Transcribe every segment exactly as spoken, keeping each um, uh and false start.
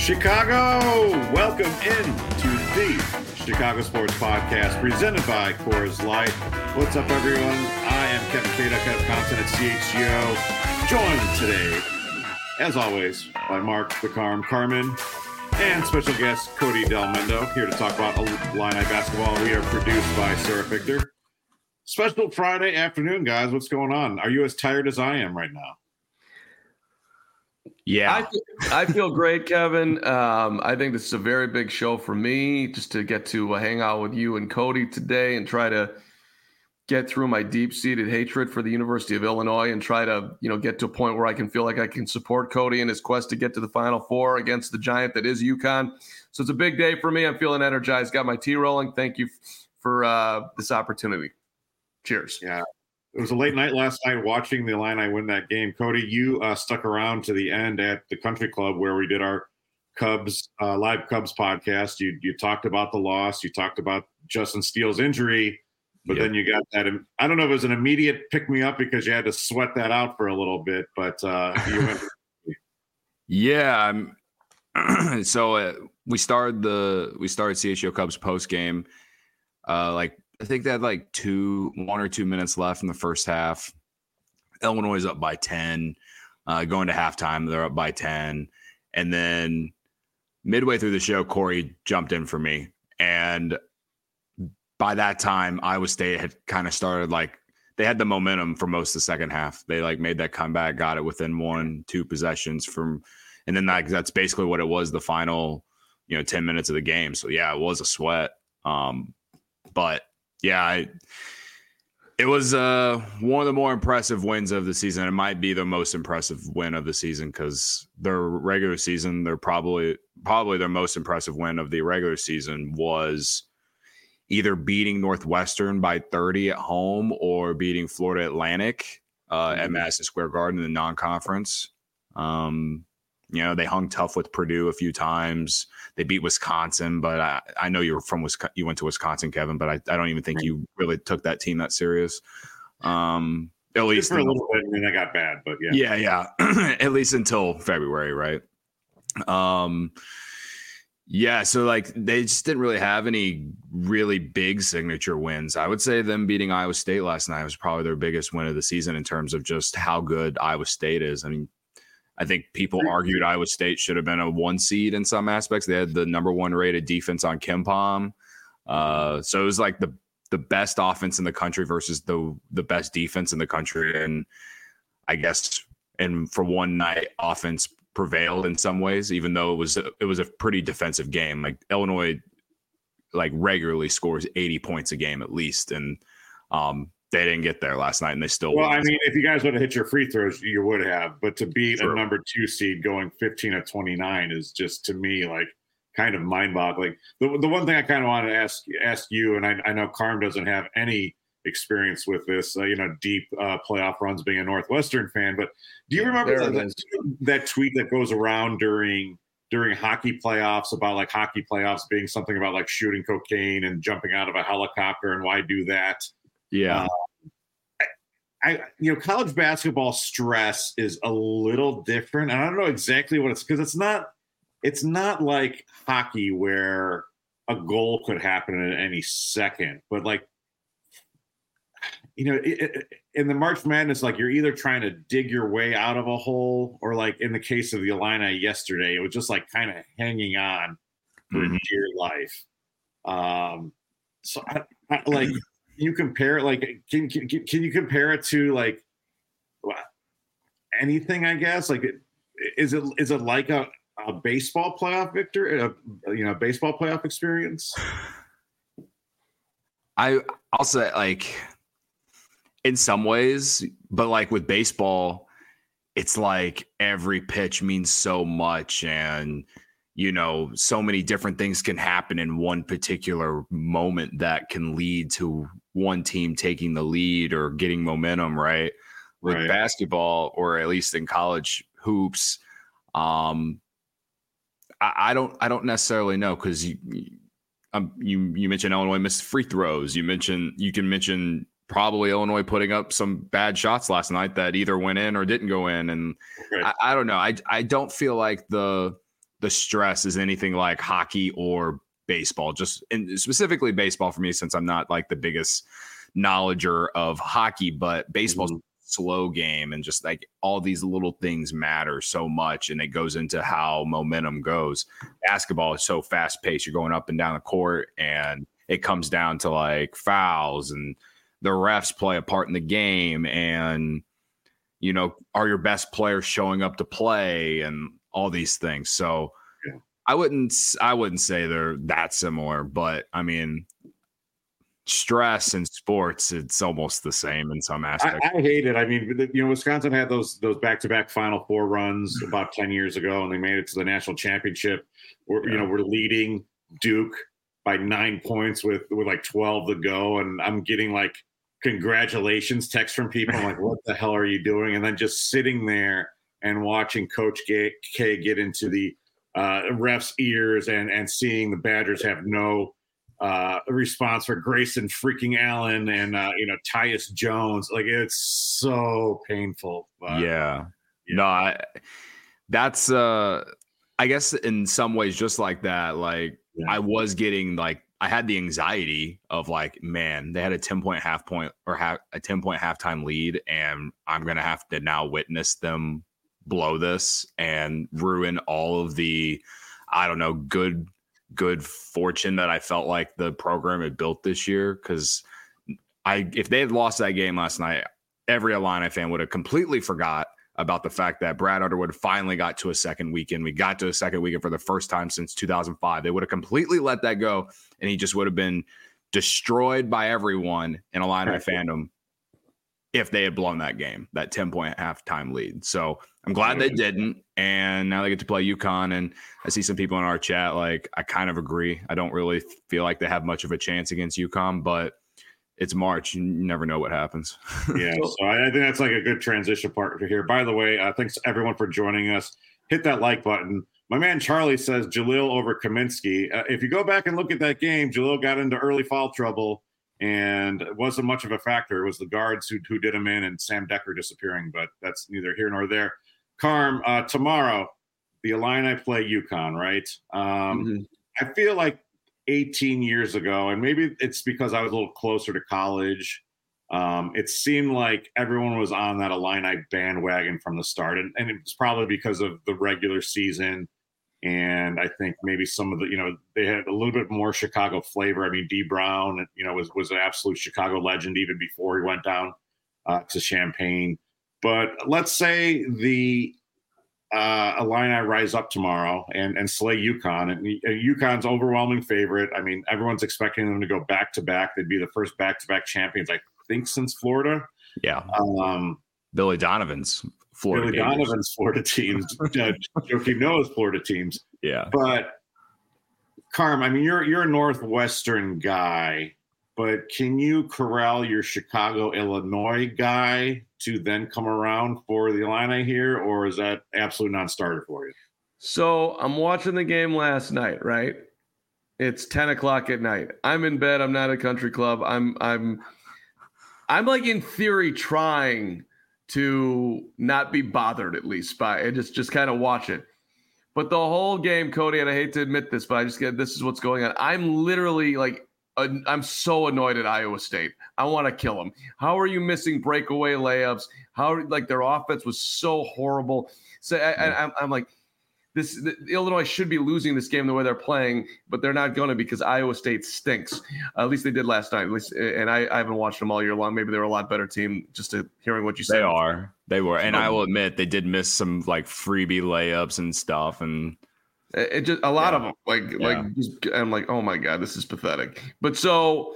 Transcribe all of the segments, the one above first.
Chicago, welcome in to the Chicago Sports Podcast presented by Coors Light. What's up, everyone? I am Kevin Kado, Kevin Compton at C H G O, joined today, as always, by Mark the Carm Carmen and special guest Cody Del Mendo, here to talk about Illini basketball. We are produced by Sarah Victor. Special Friday afternoon, guys. What's going on? Are you as tired as I am right now? Yeah, I, feel, I feel great, Kevin. Um, I think this is a very big show for me, just to get to uh, hang out with you and Cody today and try to get through my deep-seated hatred for the University of Illinois and try to, you know, get to a point where I can feel like I can support Cody in his quest to get to the Final Four against the giant that is UConn. So it's a big day for me. I'm feeling energized. Got my tea rolling. Thank you for uh, this opportunity. Cheers. Yeah. It was a late night last night watching the Illini win that game. Cody, you uh, stuck around to the end at the Country Club where we did our Cubs uh, live Cubs podcast. You you talked about the loss. You talked about Justin Steele's injury, but yep. then you got that. I don't know if it was an immediate pick me up because you had to sweat that out for a little bit, but uh, you went. yeah. I'm, so uh, we started the we started C H G O Cubs post game, uh, like. I think they had like two, one or two minutes left in the first half. Illinois is up by ten. Uh, going to halftime, they're up by ten. And then midway through the show, Corey jumped in for me. And by that time, Iowa State had kind of started like they had the momentum for most of the second half. They like made that comeback, got it within one, two possessions from, and then like that's basically what it was the final, you know, ten minutes of the game. So yeah, it was a sweat. Um, but Yeah, I, it was uh, one of the more impressive wins of the season. It might be the most impressive win of the season because their regular season, they're probably probably their most impressive win of the regular season was either beating Northwestern by thirty at home or beating Florida Atlantic uh, mm-hmm. at Madison Square Garden in the non-conference. Um, you know, they hung tough with Purdue a few times. They beat Wisconsin, but I, I know you're from Wisconsin. You went to Wisconsin, Kevin, but I, I don't even think you really took that team that serious. Um, at least for a little bit, and then I got bad, but Yeah, yeah. yeah. At least until February, right? Um, yeah, so like they just didn't really have any really big signature wins. I would say them beating Iowa State last night was probably their biggest win of the season in terms of just how good Iowa State is. I mean, I think people argued Iowa State should have been a one seed in some aspects. They had the number one rated defense on KenPom. Uh, so it was like the the best offense in the country versus the the best defense in the country. And I guess, and for one night, offense prevailed in some ways, even though it was it was a pretty defensive game. Like Illinois, like regularly scores eighty points a game at least, and um, they didn't get there last night, and they still well, won. I mean, if you guys would have hit your free throws, you would have. But to beat True. a number two seed going fifteen of twenty-nine is just, to me, like kind of mind-boggling. The the one thing I kind of want to ask ask you, and I, I know Carm doesn't have any experience with this, uh, you know, deep uh, playoff runs being a Northwestern fan, but do you remember that, that, that tweet that goes around during during hockey playoffs about like hockey playoffs being something about like shooting cocaine and jumping out of a helicopter and why do that? Yeah. Uh, I, I, you know, college basketball stress is a little different. And I don't know exactly what it's, because it's not, it's not like hockey where a goal could happen at any second, but like, you know, it, it, in the March Madness, like you're either trying to dig your way out of a hole, or like in the case of the Illini yesterday, it was just like kind of hanging on for mm-hmm. dear life. Um, so I, I like, you compare like can, can can you compare it to like anything? I guess like is it is it like a, a baseball playoff victory, a, you know, baseball playoff experience? I I'll say like in some ways, but like with baseball, it's like every pitch means so much, and you know, so many different things can happen in one particular moment that can lead to one team taking the lead or getting momentum, right? With right. basketball, or at least in college hoops, um, I, I don't, I don't necessarily know, because you, um, you, you mentioned Illinois missed free throws. You mentioned, you can mention probably Illinois putting up some bad shots last night that either went in or didn't go in, and right. I, I don't know. I, I don't feel like the the stress is anything like hockey or baseball, just and specifically baseball for me, since I'm not like the biggest knowledger of hockey, but baseball's mm-hmm. slow game, and just like all these little things matter so much, and it goes into how momentum goes. Basketball is so fast paced. You're going up and down the court, and it comes down to like fouls, and the refs play a part in the game, and you know, are your best players showing up to play, and all these things. So yeah. I wouldn't I wouldn't say they're that similar, but I mean, stress in sports, it's almost the same in some aspects. I, I hate it. I mean, you know, Wisconsin had those those back-to-back Final Four runs about ten years ago, and they made it to the national championship. We're, yeah. You know, we're leading Duke by nine points with with like twelve to go, and I'm getting like congratulations texts from people. I'm like, what the hell are you doing? And then just sitting there and watching Coach K get into the uh, ref's ears, and and seeing the Badgers have no uh, response for Grayson freaking Allen and uh, you know, Tyus Jones. Like, it's so painful. But, yeah. yeah, no, I, that's uh, I guess in some ways just like that. Like yeah. I was getting like I had the anxiety of like, man, they had a ten point half point or ha- a ten point halftime lead, and I'm gonna have to now witness them blow this and ruin all of the, I don't know, good, good fortune that I felt like the program had built this year. Cause I, if they had lost that game last night, every Illini fan would have completely forgot about the fact that Brad Underwood finally got to a second weekend. We got to a second weekend for the first time since two thousand five. They would have completely let that go, and he just would have been destroyed by everyone in Illini right. fandom if they had blown that game, that ten point halftime lead. So I'm glad they didn't. And now they get to play UConn. And I see some people in our chat, like, I kind of agree. I don't really feel like they have much of a chance against UConn, but it's March. You never know what happens. Yeah. So I think that's like a good transition part here. By the way, uh, thanks everyone for joining us. Hit that like button. My man Charlie says Jaleel over Kaminsky. Uh, if you go back and look at that game, Jaleel got into early foul trouble, and it wasn't much of a factor. It was the guards who who did him in, and Sam Decker disappearing, but that's neither here nor there. Carm, uh, tomorrow, the Illini play UConn, right? Um, mm-hmm. I feel like eighteen years ago, and maybe it's because I was a little closer to college, um, it seemed like everyone was on that Illini bandwagon from the start, and, and it's probably because of the regular season. And I think maybe some of the, you know, they had a little bit more Chicago flavor. I mean, D. Brown, you know, was was an absolute Chicago legend even before he went down uh, to Champaign. But let's say the uh, Illini rise up tomorrow and, and slay UConn. And UConn's overwhelming favorite. I mean, everyone's expecting them to go back to back. They'd be the first back to back champions, I think, since Florida. Yeah. Um, Billy Donovan's Florida Billy Gators. Donovan's Florida teams. uh, Joakim Noah's Florida teams. Yeah. But Carm, I mean, you're you're a Northwestern guy, but can you corral your Chicago, Illinois guy to then come around for the Illini here, or is that absolute non-starter for you? So I'm watching the game last night, right? It's ten o'clock at night. I'm in bed. I'm not at a country club. I'm I'm I'm like in theory trying to not be bothered at least by it, just just kind of watch it. But the whole game, Cody, and I hate to admit this, but I just get this is what's going on. I'm literally like, I'm so annoyed at Iowa State. I want to kill them. How are you missing breakaway layups? How like their offense was so horrible. So I, I, I'm, I'm like, this the, Illinois should be losing this game the way they're playing, but they're not going to because Iowa State stinks. Uh, at least they did last night. At least, and I, I haven't watched them all year long. Maybe they were a lot better team. Just to hearing what you said. They are. They were, and I will admit they did miss some like freebie layups and stuff, and it, it just a lot yeah. of them. Like yeah. like just, I'm like, oh my god, this is pathetic. But so,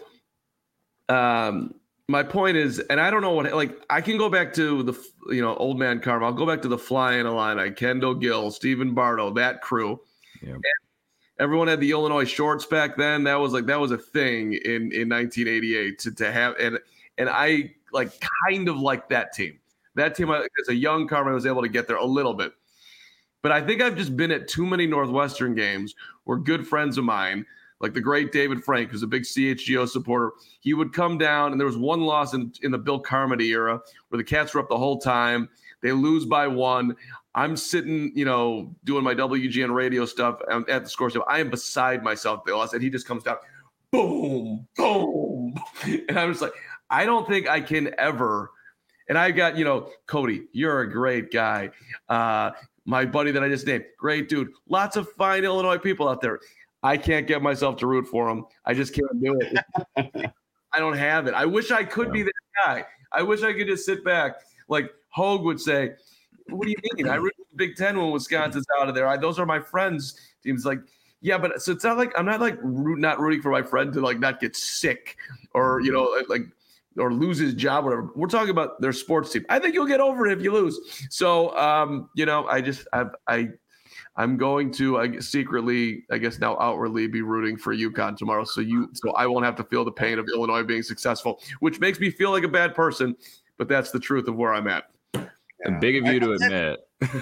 um. My point is, and I don't know what, like, I can go back to the, you know, old man Carm. I'll go back to the Flying Illini, Kendall Gill, Stephen Bardo, that crew. Yeah. Everyone had the Illinois shorts back then. That was like, that was a thing in, in nineteen eighty-eight to, to have. And, and I like kind of like that team. That team, as a young Carm, I was able to get there a little bit. But I think I've just been at too many Northwestern games where good friends of mine, like the great David Frank, who's a big C H G O supporter, he would come down, and there was one loss in, in the Bill Carmody era where the Cats were up the whole time. They lose by one. I'm sitting, you know, doing my W G N radio stuff at the score show. I am beside myself, Bill. I said, he just comes down, boom, boom. And I'm just like, I don't think I can ever. And I got, you know, Cody, you're a great guy. Uh, my buddy that I just named, great dude. Lots of fine Illinois people out there. I can't get myself to root for them. I just can't do it. I don't have it. I wish I could be that guy. I wish I could just sit back. Like Hogue would say, what do you mean? I root for the Big Ten when Wisconsin's out of there. I, those are my friends' teams. Like, yeah, but so it's not like I'm not like root, not rooting for my friend to like not get sick or, you know, like or lose his job, whatever. We're talking about their sports team. I think you'll get over it if you lose. So, um, you know, I just I've, I I'm going to I guess, secretly, I guess now outwardly, be rooting for UConn tomorrow. So you, so I won't have to feel the pain of Illinois being successful, which makes me feel like a bad person. But that's the truth of where I'm at. And big of you to admit.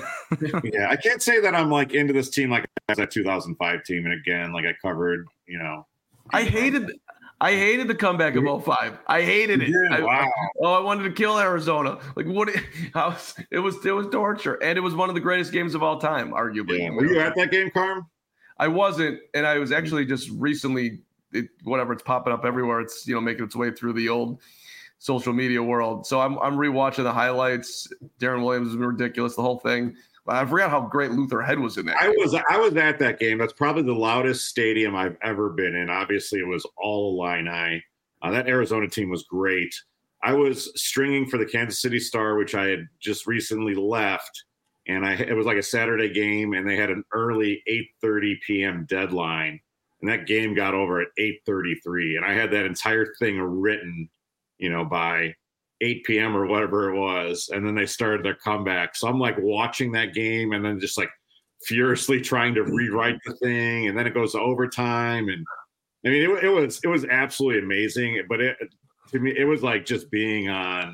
Yeah, I can't say that I'm like into this team like that two thousand five team. And again, like I covered, you know, I hated. I hated the comeback of oh five. I hated it. Yeah, I, wow. Oh, I wanted to kill Arizona. Like what? How, it was it was torture, and it was one of the greatest games of all time, arguably. Yeah. Were you at that game, Carm? I wasn't, and I was actually just recently. It, whatever, it's popping up everywhere. It's you know making its way through the old social media world. So I'm I'm rewatching the highlights. Darren Williams is ridiculous. The whole thing. I forgot how great Luther Head was in that I game. was I was at that game. That's probably the loudest stadium I've ever been in. Obviously, it was all Illini. Uh, that Arizona team was great. I was stringing for the Kansas City Star, which I had just recently left, and I it was like a Saturday game, and they had an early eight thirty p.m. deadline, and that game got over at eight thirty-three, and I had that entire thing written, you know, by eight p.m. or whatever it was, and then they started their comeback. So I'm like watching that game and then just like furiously trying to rewrite the thing, and then it goes to overtime. And I mean, it, it was it was absolutely amazing. But it to me, it was like just being on.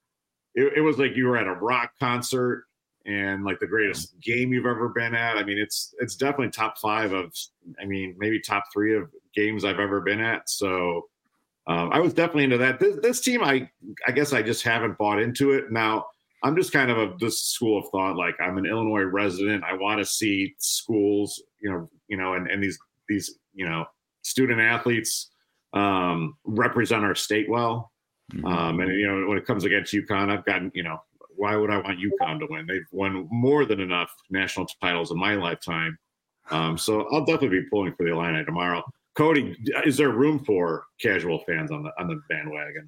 It, it was like you were at a rock concert and like the greatest game you've ever been at. I mean, it's it's definitely top five of. I mean, maybe top three of games I've ever been at. So. Um, I was definitely into that. This, this team, I I guess I just haven't bought into it. Now, I'm just kind of a this school of thought. Like I'm an Illinois resident. I want to see schools, you know, you know, and, and these these you know student athletes um, represent our state well. Mm-hmm. Um, and you know, when it comes against UConn, I've gotten you know, why would I want UConn to win? They've won more than enough national titles in my lifetime. Um, so I'll definitely be pulling for the Illini tomorrow. Cody, is there room for casual fans on the on the bandwagon?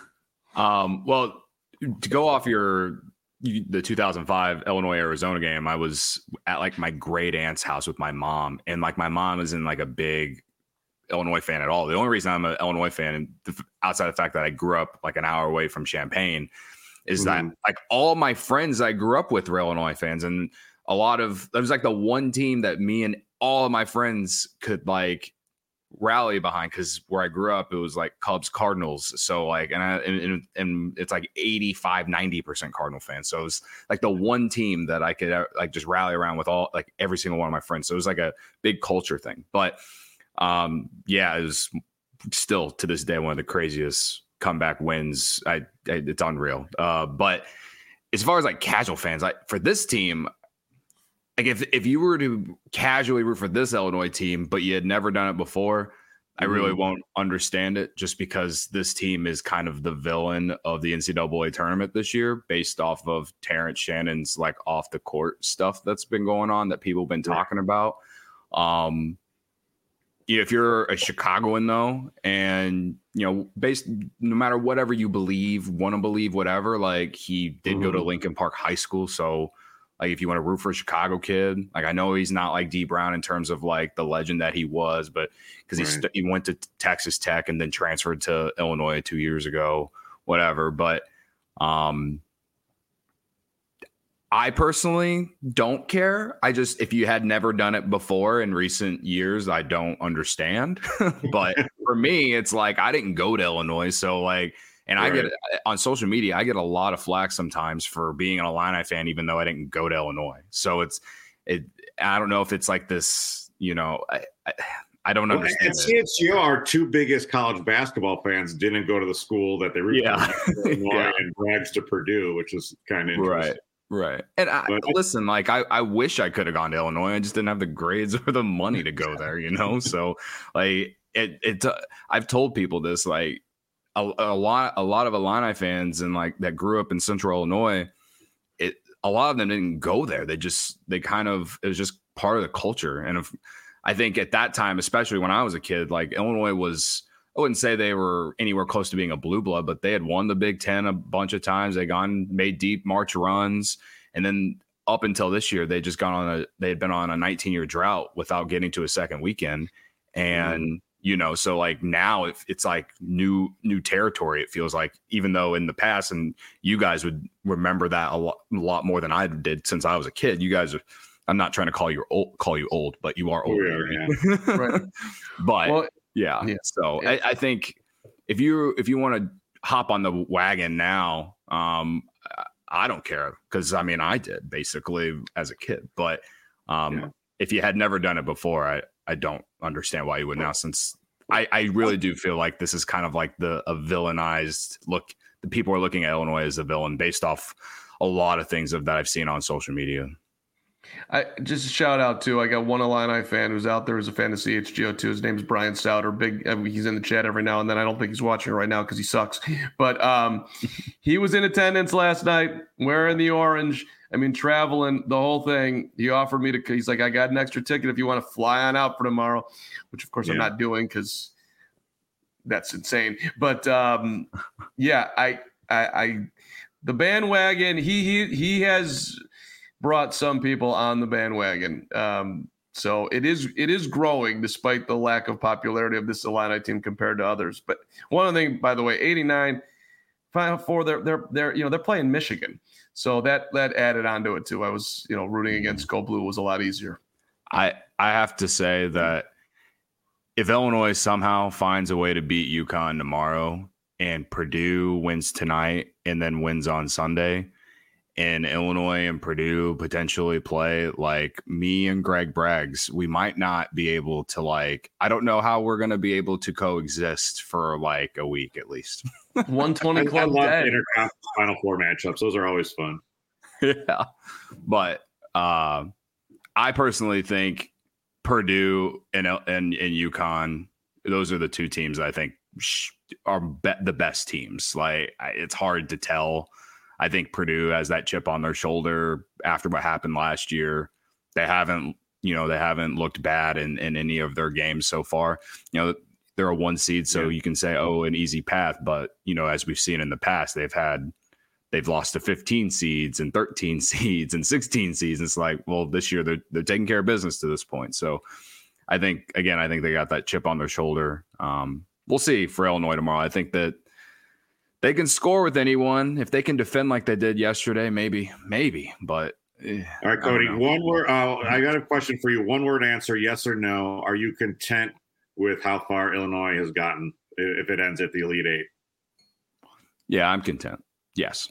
um, well, to go off your the two thousand five Illinois Arizona game, I was at like my great aunt's house with my mom, and like my mom isn't like a big Illinois fan at all. The only reason I'm an Illinois fan, and outside of the fact that I grew up like an hour away from Champaign, is mm-hmm. that like all my friends I grew up with were Illinois fans, and a lot of that was like the one team that me and all of my friends could like rally behind, because where I grew up it was like Cubs, Cardinals, so like and I and, and it's like eighty-five, ninety percent Cardinal fans, so it was like the one team that I could like just rally around with all like every single one of my friends. So it was like a big culture thing. But um yeah, it was still to this day one of the craziest comeback wins. I, I it's unreal. Uh but as far as like casual fans, like for this team, like if if you were to casually root for this Illinois team, but you had never done it before, mm-hmm. I really won't understand it, just because this team is kind of the villain of the N C double A tournament this year, based off of Terrence Shannon's like off the court stuff that's been going on that people have been talking about. Um, if you're a Chicagoan though, and you know, based no matter whatever you believe, want to believe whatever, like he did mm-hmm. go to Lincoln Park High School, so. Like, if you want to root for a Chicago kid, like, I know he's not like D Brown in terms of like the legend that he was, but because he, st- he went to Texas Tech and then transferred to Illinois two years ago, whatever. But um, I personally don't care. I just, if you had never done it before in recent years, I don't understand. But for me, it's like, I didn't go to Illinois. So like, And right. I get on social media, I get a lot of flack sometimes for being an Illini fan, even though I didn't go to Illinois. So it's, it. I don't know if it's like this, you know, I, I, I don't well, understand. And C H G O, our two biggest college basketball fans, didn't go to the school that they root yeah. for, Illinois, yeah. and brags to Purdue, which is kind of interesting. Right. Right. And I, But listen, like I, I wish I could have gone to Illinois. I just didn't have the grades or the money to go there, you know? So like it, it, uh, I've told people this, like a, a lot, a lot of Illini fans and like that grew up in Central Illinois, it, a lot of them didn't go there. They just, they kind of, it was just part of the culture. And if, I think at that time, especially when I was a kid, like Illinois was, I wouldn't say they were anywhere close to being a blue blood, but they had won the Big Ten a bunch of times. They gone made deep March runs, and then up until this year, they just gone on a they had been on a nineteen year drought without getting to a second weekend, and mm-hmm. you know, so like now it, it's like new new territory. It feels like, even though in the past, and you guys would remember that a lot, a lot more than I did since I was a kid. You guys are. I'm not trying to call you old, call you old, but you are old. Oh, yeah, yeah. Right. But. Well, Yeah. yeah. So yeah. I, I think if you if you want to hop on the wagon now, um, I don't care, because I mean I did basically as a kid. But um, yeah. if you had never done it before, I, I don't understand why you would now. Since I, I really do feel like this is kind of like the a villainized look. The people are looking at Illinois as a villain based off a lot of things of, that I've seen on social media. I just a shout out to I got one Illini fan who's out there who's a fan of C H G O too. His name's Brian Stouter. Big, I mean, he's in the chat every now and then. I don't think he's watching right now because he sucks. But um, he was in attendance last night, wearing the orange. I mean, traveling the whole thing. He offered me to. He's like, I got an extra ticket if you want to fly on out for tomorrow, which of course yeah. I'm not doing because that's insane. But um, yeah, I, I, I, the bandwagon. He he he has. brought some people on the bandwagon. Um, so it is it is growing despite the lack of popularity of this Illini team compared to others. But one other thing, by the way, eighty-nine, Final Four, they're they're they're you know they're playing Michigan. So that that added onto it too. I was, you know, rooting against Go Blue was a lot easier. I I have to say that if Illinois somehow finds a way to beat UConn tomorrow and Purdue wins tonight and then wins on Sunday, and Illinois and Purdue potentially play, like me and Greg Braggs, we might not be able to, like, I don't know how we're going to be able to coexist for like a week at least. one twenty club I love interconference Final Four matchups. Those are always fun. Yeah. But uh, I personally think Purdue and, and, and UConn, those are the two teams that I think are be- the best teams. Like, it's hard to tell. I think Purdue has that chip on their shoulder after what happened last year. They haven't, you know, they haven't looked bad in, in any of their games so far. You know, they're a one seed, so yeah. you can say, oh, an easy path. But, you know, as we've seen in the past, they've had, they've lost to fifteen seeds and thirteen seeds and sixteen seeds. It's like, well, this year they're, they're taking care of business to this point. So I think, again, I think they got that chip on their shoulder. Um, we'll see for Illinois tomorrow. I think that they can score with anyone. If they can defend like they did yesterday, maybe, maybe. But eh, all right, Cody, one word. Uh, I got a question for you. One word answer: yes or no. Are you content with how far Illinois has gotten if it ends at the Elite Eight? Yeah, I'm content. Yes.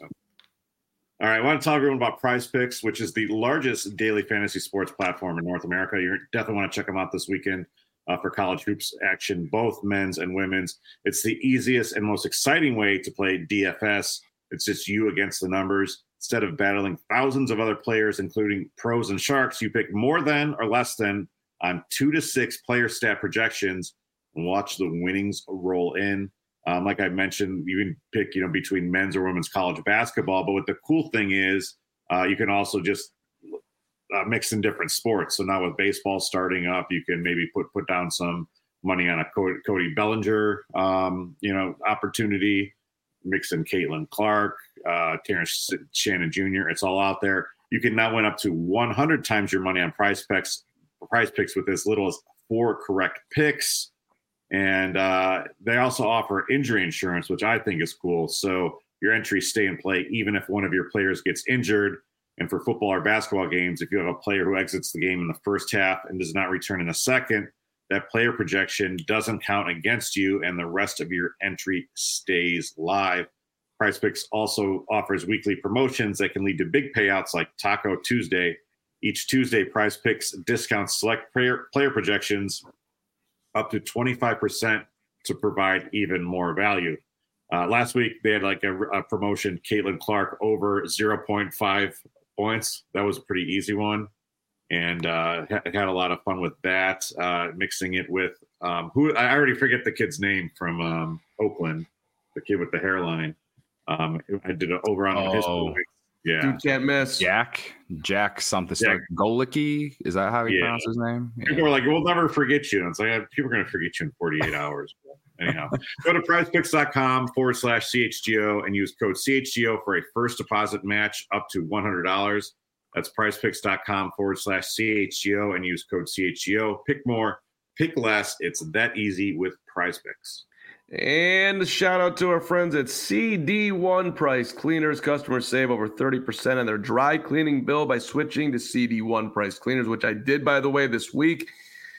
All right, I want to tell everyone about Prize Picks, which is the largest daily fantasy sports platform in North America. You definitely want to check them out this weekend. Uh, for college hoops action, both men's and women's. It's the easiest and most exciting way to play D F S. It's just you against the numbers. Instead of battling thousands of other players, including pros and sharks, you pick more than or less than on two to six player stat projections and watch the winnings roll in. Um, like I mentioned, you can pick, you know, between men's or women's college basketball. But what the cool thing is, uh, you can also just Uh, mixed in different sports. So now with baseball starting up, you can maybe put put down some money on a Cody, Cody Bellinger, um, you know, opportunity. Mix in Caitlin Clark, uh, Terrence Shannon Junior It's all out there. You can now win up to one hundred times your money on Prize Picks. Prize Picks with as little as four correct picks, and uh, they also offer injury insurance, which I think is cool. So your entries stay in play even if one of your players gets injured. And for football or basketball games, if you have a player who exits the game in the first half and does not return in the second, that player projection doesn't count against you and the rest of your entry stays live. Prize Picks also offers weekly promotions that can lead to big payouts like Taco Tuesday. Each Tuesday, Prize Picks discounts select player, player projections up to twenty-five percent to provide even more value. Uh, last week, they had like a, a promotion, Caitlin Clark over zero point five points. That was a pretty easy one, and uh, had a lot of fun with that. Uh, mixing it with um, who I already forget the kid's name from um, Oakland, the kid with the hairline. Um, I did an over on his Oh. points. Yeah, Dude can't miss. Jack, Jack something. Jack. Golicki, is that how he Yeah. pronounces his name? Yeah. People are like, "We'll never forget you." And it's like, people are going to forget you in forty-eight hours. Anyhow, go to prizepicks.com forward slash CHGO and use code C H G O for a first deposit match up to one hundred dollars. That's prizepicks.com forward slash CHGO and use code C H G O. Pick more, pick less. It's that easy with PrizePicks. And a shout out to our friends at C D one Price Cleaners. Customers save over thirty percent on their dry cleaning bill by switching to C D one Price Cleaners, which I did, by the way, this week.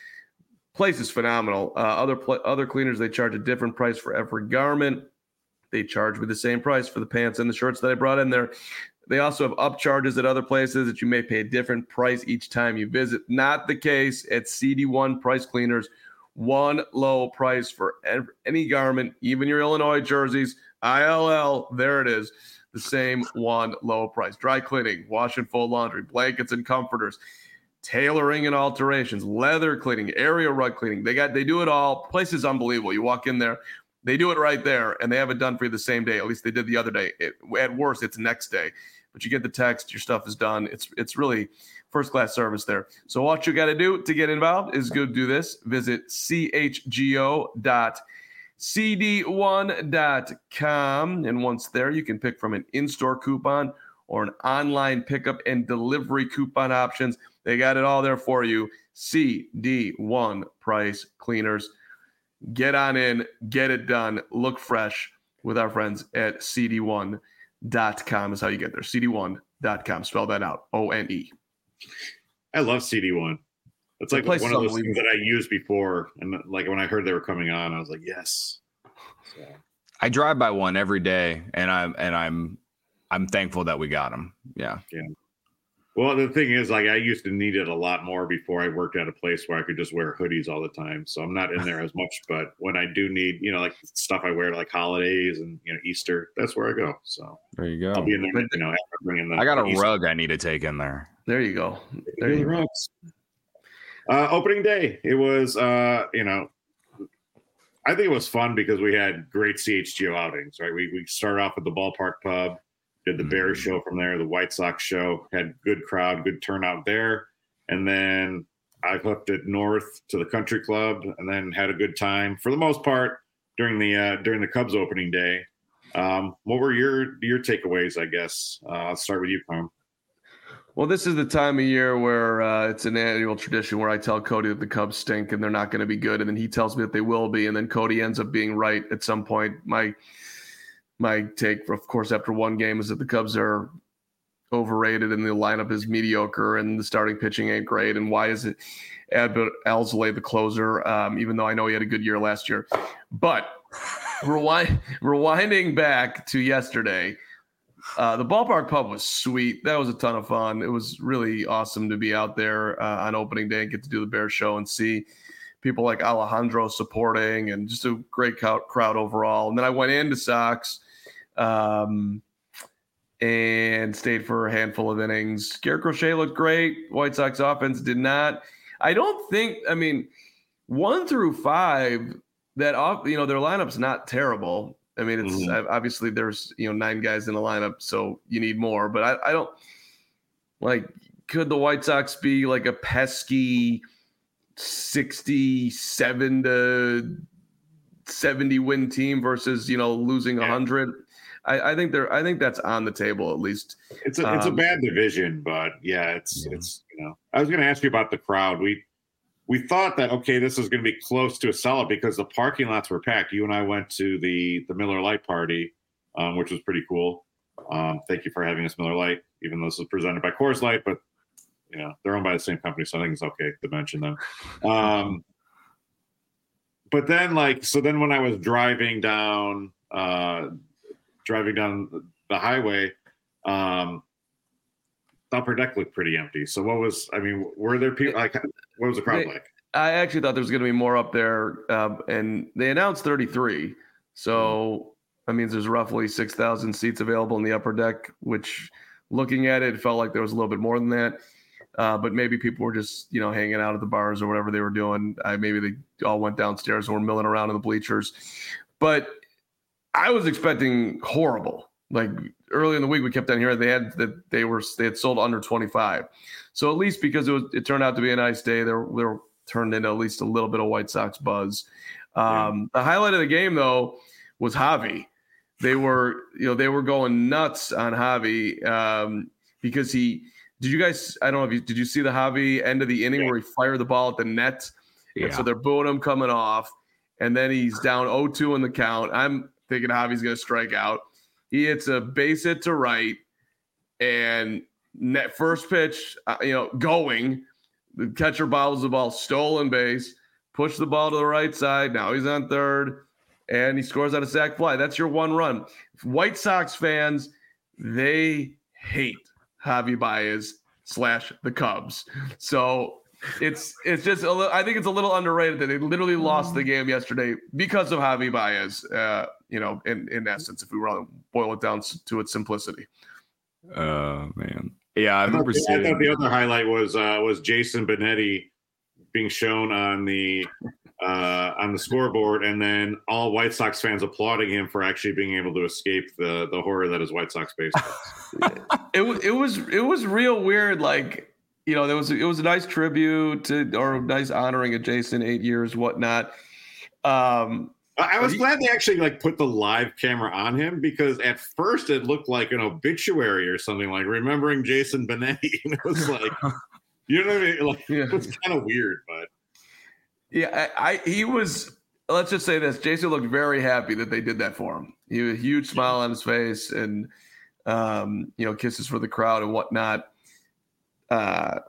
Place is phenomenal. Uh, other pl- other cleaners, they charge a different price for every garment. They charge me the same price for the pants and the shirts that I brought in there. They also have upcharges at other places that you may pay a different price each time you visit. Not the case at C D one Price Cleaners. One low price for every, any garment, even your Illinois jerseys, I L L, there it is. The same one low price. Dry cleaning, wash and fold laundry, blankets and comforters, tailoring and alterations, leather cleaning, area rug cleaning. They got they do it all. Place is unbelievable. You walk in there, they do it right there, and they have it done for you the same day. At least they did the other day. It, at worst, it's next day. But you get the text, your stuff is done. It's it's really first-class service there. So what you got to do to get involved is go do this. Visit C H G O dot C D one dot com. And once there, you can pick from an in-store coupon or an online pickup and delivery coupon options. They got it all there for you. C D one Price Cleaners. Get on in, get it done, look fresh with our friends at C D one dot com is how you get there. C D one dot com. Spell that out. O N E. I love C D one. It's like place one is of those things that I used before, and like when I heard they were coming on, I was like, yes. So. I drive by one every day, and I'm and I'm I'm thankful that we got them. Yeah. Yeah. Well, the thing is, like, I used to need it a lot more before I worked at a place where I could just wear hoodies all the time. So I'm not in there as much. But when I do need, you know, like stuff I wear like holidays and, you know, Easter, that's where I go. So There you go. I'll be in there, you know, after bringing the. I got a Easter. rug I need to take in there. There you go. There you go. Uh, opening day, it was, uh, you know, I think it was fun because we had great C H G O outings, right? We we started off at the Ballpark Pub, did the Bears show from there, the White Sox show, had good crowd, good turnout there. And then I hooked it north to the Country Club and then had a good time for the most part during the uh, during the Cubs opening day. Um, what were your your takeaways, I guess? Uh, I'll start with you, Carm. Well, this is the time of year where uh, it's an annual tradition where I tell Cody that the Cubs stink and they're not going to be good. And then he tells me that they will be. And then Cody ends up being right at some point. My my take, of course, after one game is that the Cubs are overrated and the lineup is mediocre and the starting pitching ain't great. And why is it Albert Alzolay the closer, um, even though I know he had a good year last year. But rewind, rewinding back to yesterday, Uh, the Ballpark Pub was sweet. That was a ton of fun. It was really awesome to be out there uh, on opening day and get to do the Bears show and see people like Alejandro supporting and just a great crowd overall. And then I went into Sox um, and stayed for a handful of innings. Garrett Crochet looked great. White Sox offense did not. I don't think, I mean, one through five, that off, you know, their lineup's not terrible. I mean, it's mm-hmm. obviously there's, you know, nine guys in the lineup, so you need more. But I, I don't like, could the White Sox be like a pesky sixty-seven to seventy win team versus, you know, losing one hundred? I, I think they're, I think that's on the table at least. It's a, it's um, a bad division, but yeah, it's, yeah. it's, you know, I was going to ask you about the crowd. We, We thought that, okay, this is going to be close to a sellout because the parking lots were packed. You and I went to the the Miller Lite party, um, which was pretty cool. Um, thank you for having us, Miller Lite, even though this was presented by Coors Light, but, you know, they're owned by the same company, so I think it's okay to mention them. Um, but then, like, so then when I was driving down, uh, driving down the highway, um, the upper deck looked pretty empty. So what was, I mean, were there people, like, what was the crowd they, like? I actually thought there was going to be more up there, um, and they announced thirty-three. So that means there's roughly six thousand seats available in the upper deck, which looking at it, it felt like there was a little bit more than that. Uh, but maybe people were just, you know, hanging out at the bars or whatever they were doing. I, maybe they all went downstairs and were milling around in the bleachers. But I was expecting horrible. Like early in the week, we kept on hearing they had that they were they had sold under twenty-five. So at least because it was, it turned out to be a nice day, they were, they were turned into at least a little bit of White Sox buzz. Um, yeah. The highlight of the game, though, was Javi. They were, you know, they were going nuts on Javi um, because he. Did you guys? I don't know if you did. You see the Javi end of the inning yeah. where he fired the ball at the net? Yeah. And so they're booing him coming off, and then he's down oh two in the count. I'm thinking Javi's going to strike out. He hits a base hit to right, and net first pitch, uh, you know, going. The catcher bobbles the ball, stolen base, push the ball to the right side. Now he's on third, and he scores on a sac fly. That's your one run. White Sox fans, they hate Javi Baez slash the Cubs. So it's it's just a little, I think it's a little underrated that they literally lost the game yesterday because of Javi Baez. Uh, you know, in, in essence, if we want to boil it down to its simplicity. Oh uh, man, yeah, I, I, remember thought, seeing... I thought the other highlight was uh, was Jason Benetti being shown on the uh, on the scoreboard, and then all White Sox fans applauding him for actually being able to escape the the horror that is White Sox baseball. it was it was it was real weird. Like, you know, there was it was a nice tribute to, or a nice honoring of Jason, eight years, whatnot. Um, I was he, glad they actually like put the live camera on him, because at first it looked like an obituary or something, like remembering Jason Benetti. And it was like, you know what I mean? Like, yeah. It was kind of weird, but yeah, I, I he was. Let's just say this: Jason looked very happy that they did that for him. He had a huge smile on his face, and um, you know, kisses for the crowd and whatnot. Uh,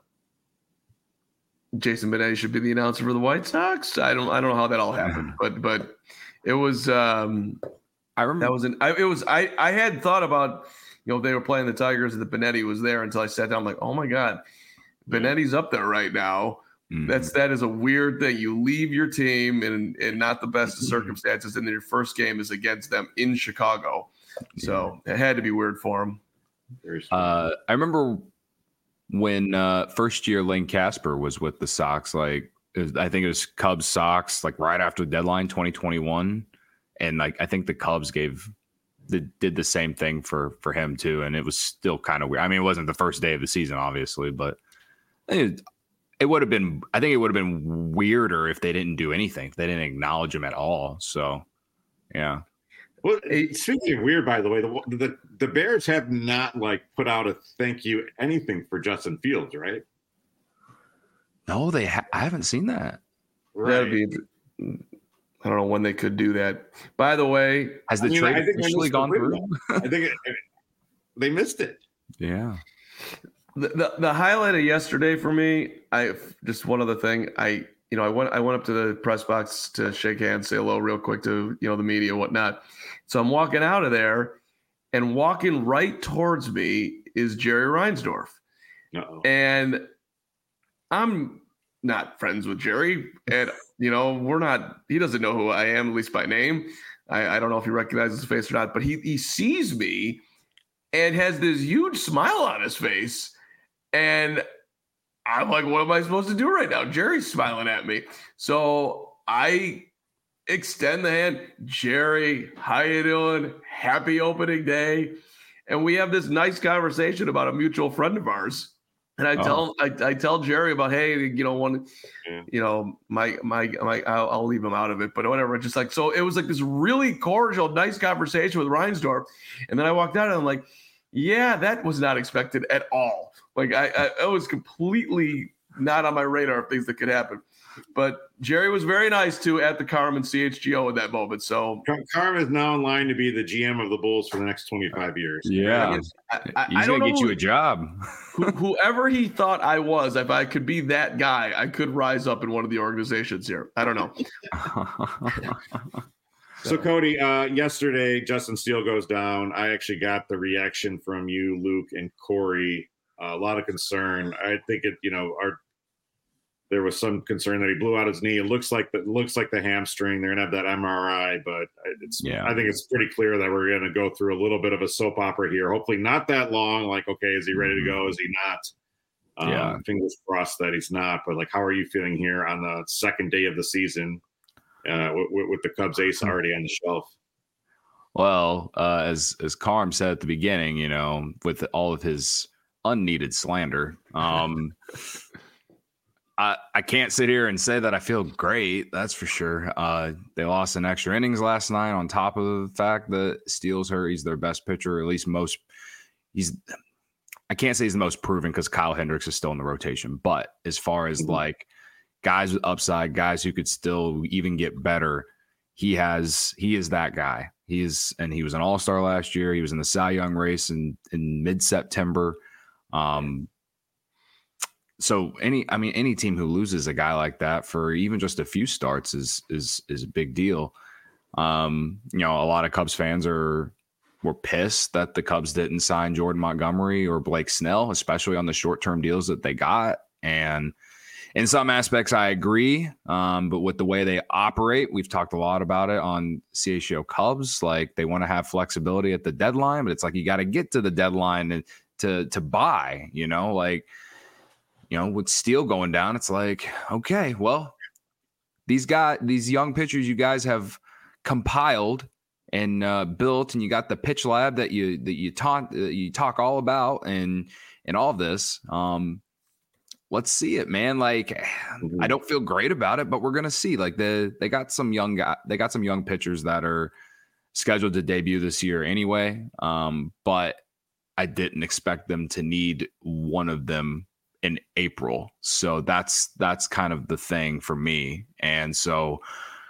Jason Benetti should be the announcer for the White Sox. I don't, I don't know how that all happened, but but it was. Um, I remember that was an. I, it was. I I had thought about, you know, they were playing the Tigers and the Benetti was there until I sat down. I'm like, oh my God, Benetti's up there right now. Mm-hmm. That's that is a weird thing. You leave your team in in not the best of circumstances, and then your first game is against them in Chicago. So yeah. It had to be weird for him. Uh, I remember when uh, first year Lane Casper was with the Sox. Like it was, I think it was Cubs Sox, like right after the deadline, twenty twenty-one, and like I think the Cubs gave the, did the same thing for for him too, and it was still kind of weird. I mean, it wasn't the first day of the season, obviously, but it, it would have been. I think it would have been weirder if they didn't do anything, if they didn't acknowledge him at all. So, yeah. Well, speaking of weird, by the way, the, the the Bears have not like put out a thank you anything for Justin Fields, right? No, they. Ha- I haven't seen that. Right. That'd be. I don't know when they could do that. By the way, has the I mean, trade officially gone through? I think it, it, they missed it. Yeah. The, the the highlight of yesterday for me, I just one other thing. I you know I went I went up to the press box to shake hands, say hello real quick to you know the media and whatnot. So I'm walking out of there, and walking right towards me is Jerry Reinsdorf. Uh-oh. And I'm not friends with Jerry, and you know we're not. He doesn't know who I am, at least by name. I, I don't know if he recognizes his face or not, but he he sees me and has this huge smile on his face, and I'm like, what am I supposed to do right now? Jerry's smiling at me, so I extend the hand. Jerry, how you doing? Happy opening day. And we have this nice conversation about a mutual friend of ours. And I tell oh. I, I tell Jerry about, hey, you know, one, yeah. you know, my my my I'll, I'll leave him out of it, but whatever. Just like, so it was like this really cordial, nice conversation with Reinsdorf. And then I walked out and I'm like, yeah, that was not expected at all. Like I, I it was completely not on my radar of things that could happen. But Jerry was very nice too at the Carmen C H G O at that moment. So Carmen is now in line to be the G M of the Bulls for the next twenty-five years. Yeah, I, I, he's I gonna get who, you a job. who, whoever he thought I was, if I could be that guy, I could rise up in one of the organizations here. I don't know. So Cody, uh, yesterday Justin Steele goes down. I actually got the reaction from you, Luke, and Corey. Uh, a lot of concern. I think it, you know, our there was some concern that he blew out his knee. It looks like the, looks like the hamstring. They're gonna have that M R I, but it's Yeah. I think it's pretty clear that we're gonna go through a little bit of a soap opera here. Hopefully not that long. Like, okay, is he ready to go? Is he not? Um, Yeah. Fingers crossed that he's not. But like, how are you feeling here on the second day of the season uh, with, with the Cubs ace already on the shelf? Well, uh, as as Carm said at the beginning, you know, with all of his unneeded slander, um, I I can't sit here and say that I feel great. That's for sure. Uh, they lost in extra innings last night. On top of the fact that Steele's hurt, he's their best pitcher, or at least most. He's. I can't say he's the most proven because Kyle Hendricks is still in the rotation. But as far as mm-hmm. like guys with upside, guys who could still even get better, he has. He is that guy. He is, and he was an all-star last year. He was in the Cy Young race in, in mid-September. Um, so any, I mean, any team who loses a guy like that for even just a few starts is is is a big deal. Um, you know, a lot of Cubs fans are were pissed that the Cubs didn't sign Jordan Montgomery or Blake Snell, especially on the short-term deals that they got. And in some aspects, I agree. Um, but with the way they operate, we've talked a lot about it on C H G O Cubs. Like, they want to have flexibility at the deadline, but it's like you got to get to the deadline and to to buy. You know, like you know, with Steele going down, it's like, okay, well, these guys, these young pitchers, you guys have compiled and uh, built, and you got the pitch lab that you that you talk uh, you talk all about, and and all this. Um, Let's see it, man. Like, mm-hmm. I don't feel great about it, but we're gonna see. Like, the they got some young guy, they got some young pitchers that are scheduled to debut this year anyway. Um, but I didn't expect them to need one of them in April. So that's that's kind of the thing for me. And so,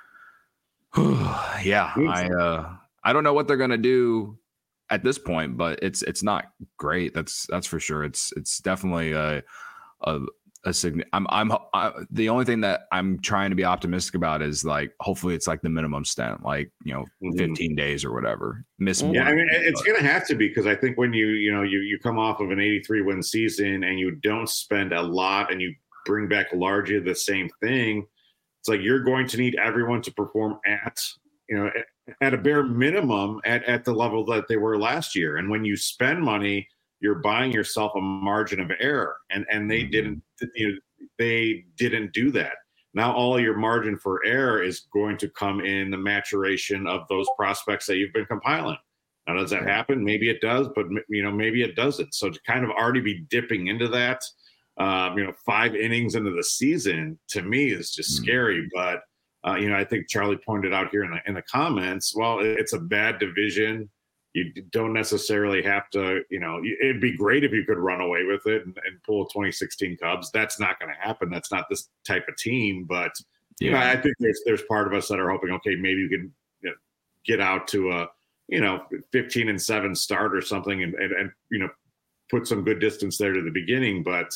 yeah, I uh, I don't know what they're gonna do at this point, but it's it's not great. That's that's for sure. It's it's definitely a a, a sign. I'm I'm I, the only thing that I'm trying to be optimistic about is like hopefully it's like the minimum stint, like you know, mm-hmm. fifteen days or whatever. Miss yeah, one, I mean it's but. gonna have to be because I think when you you know you you come off of an eighty-three win season and you don't spend a lot and you bring back largely the same thing, it's like you're going to need everyone to perform at you know at, at a bare minimum at at the level that they were last year. And when you spend money, you're buying yourself a margin of error, and and they mm-hmm. didn't you know, they didn't do that. Now all your margin for error is going to come in the maturation of those prospects that you've been compiling. Now does that happen? Maybe it does, but you know maybe it doesn't. So to kind of already be dipping into that, um, you know, five innings into the season to me is just mm-hmm. scary. But uh, you know, I think Charlie pointed out here in the in the comments. Well, it's a bad division. You don't necessarily have to, you know, it'd be great if you could run away with it and, and pull a twenty sixteen Cubs. That's not going to happen. That's not this type of team. But, you yeah. know, I think there's there's part of us that are hoping, okay, maybe you can you know, get out to a, you know, fifteen and seven start or something and, and, and, you know, put some good distance there to the beginning. But,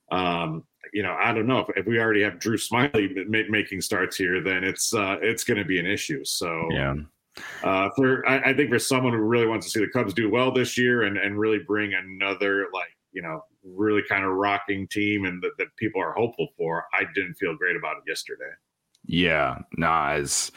um, you know, I don't know if, if we already have Drew Smyly ma- making starts here, then it's uh, it's going to be an issue. So, yeah. Uh, for I, I think for someone who really wants to see the Cubs do well this year and, and really bring another like you know really kind of rocking team and that, that people are hopeful for, I didn't feel great about it yesterday. Yeah, nah, it's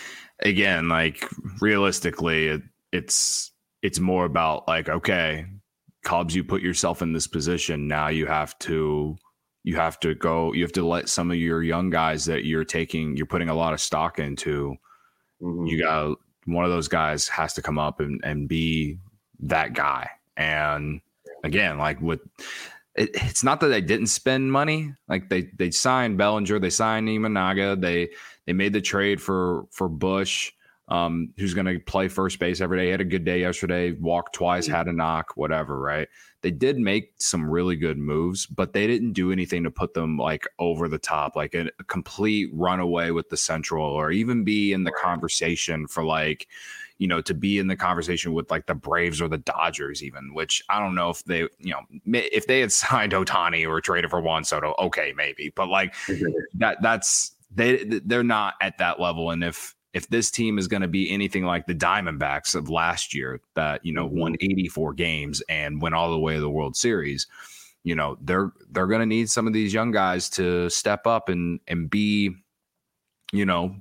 again like realistically, it, it's it's more about like okay, Cubs, you put yourself in this position. Now you have to you have to go. You have to let some of your young guys that you're taking, you're putting a lot of stock into. Mm-hmm. You got one of those guys has to come up and, and be that guy. And again, like with it, it's not that they didn't spend money. Like they they signed Bellinger, they signed Imanaga, they they made the trade for for Bush, um, who's going to play first base every day. He had a good day yesterday, walked twice, had a knock, whatever. Right? They did make some really good moves, but they didn't do anything to put them like over the top, like a, a complete runaway with the Central, or even be in the conversation for like, you know, to be in the conversation with like the Braves or the Dodgers, even, which I don't know if they, you know, if they had signed Ohtani or traded for Juan Soto, okay, maybe, but like that, that's they, they're not at that level. And if, If this team is going to be anything like the Diamondbacks of last year that, you know, mm-hmm. won eighty-four games and went all the way to the World Series, you know, they're they're going to need some of these young guys to step up and and be, you know,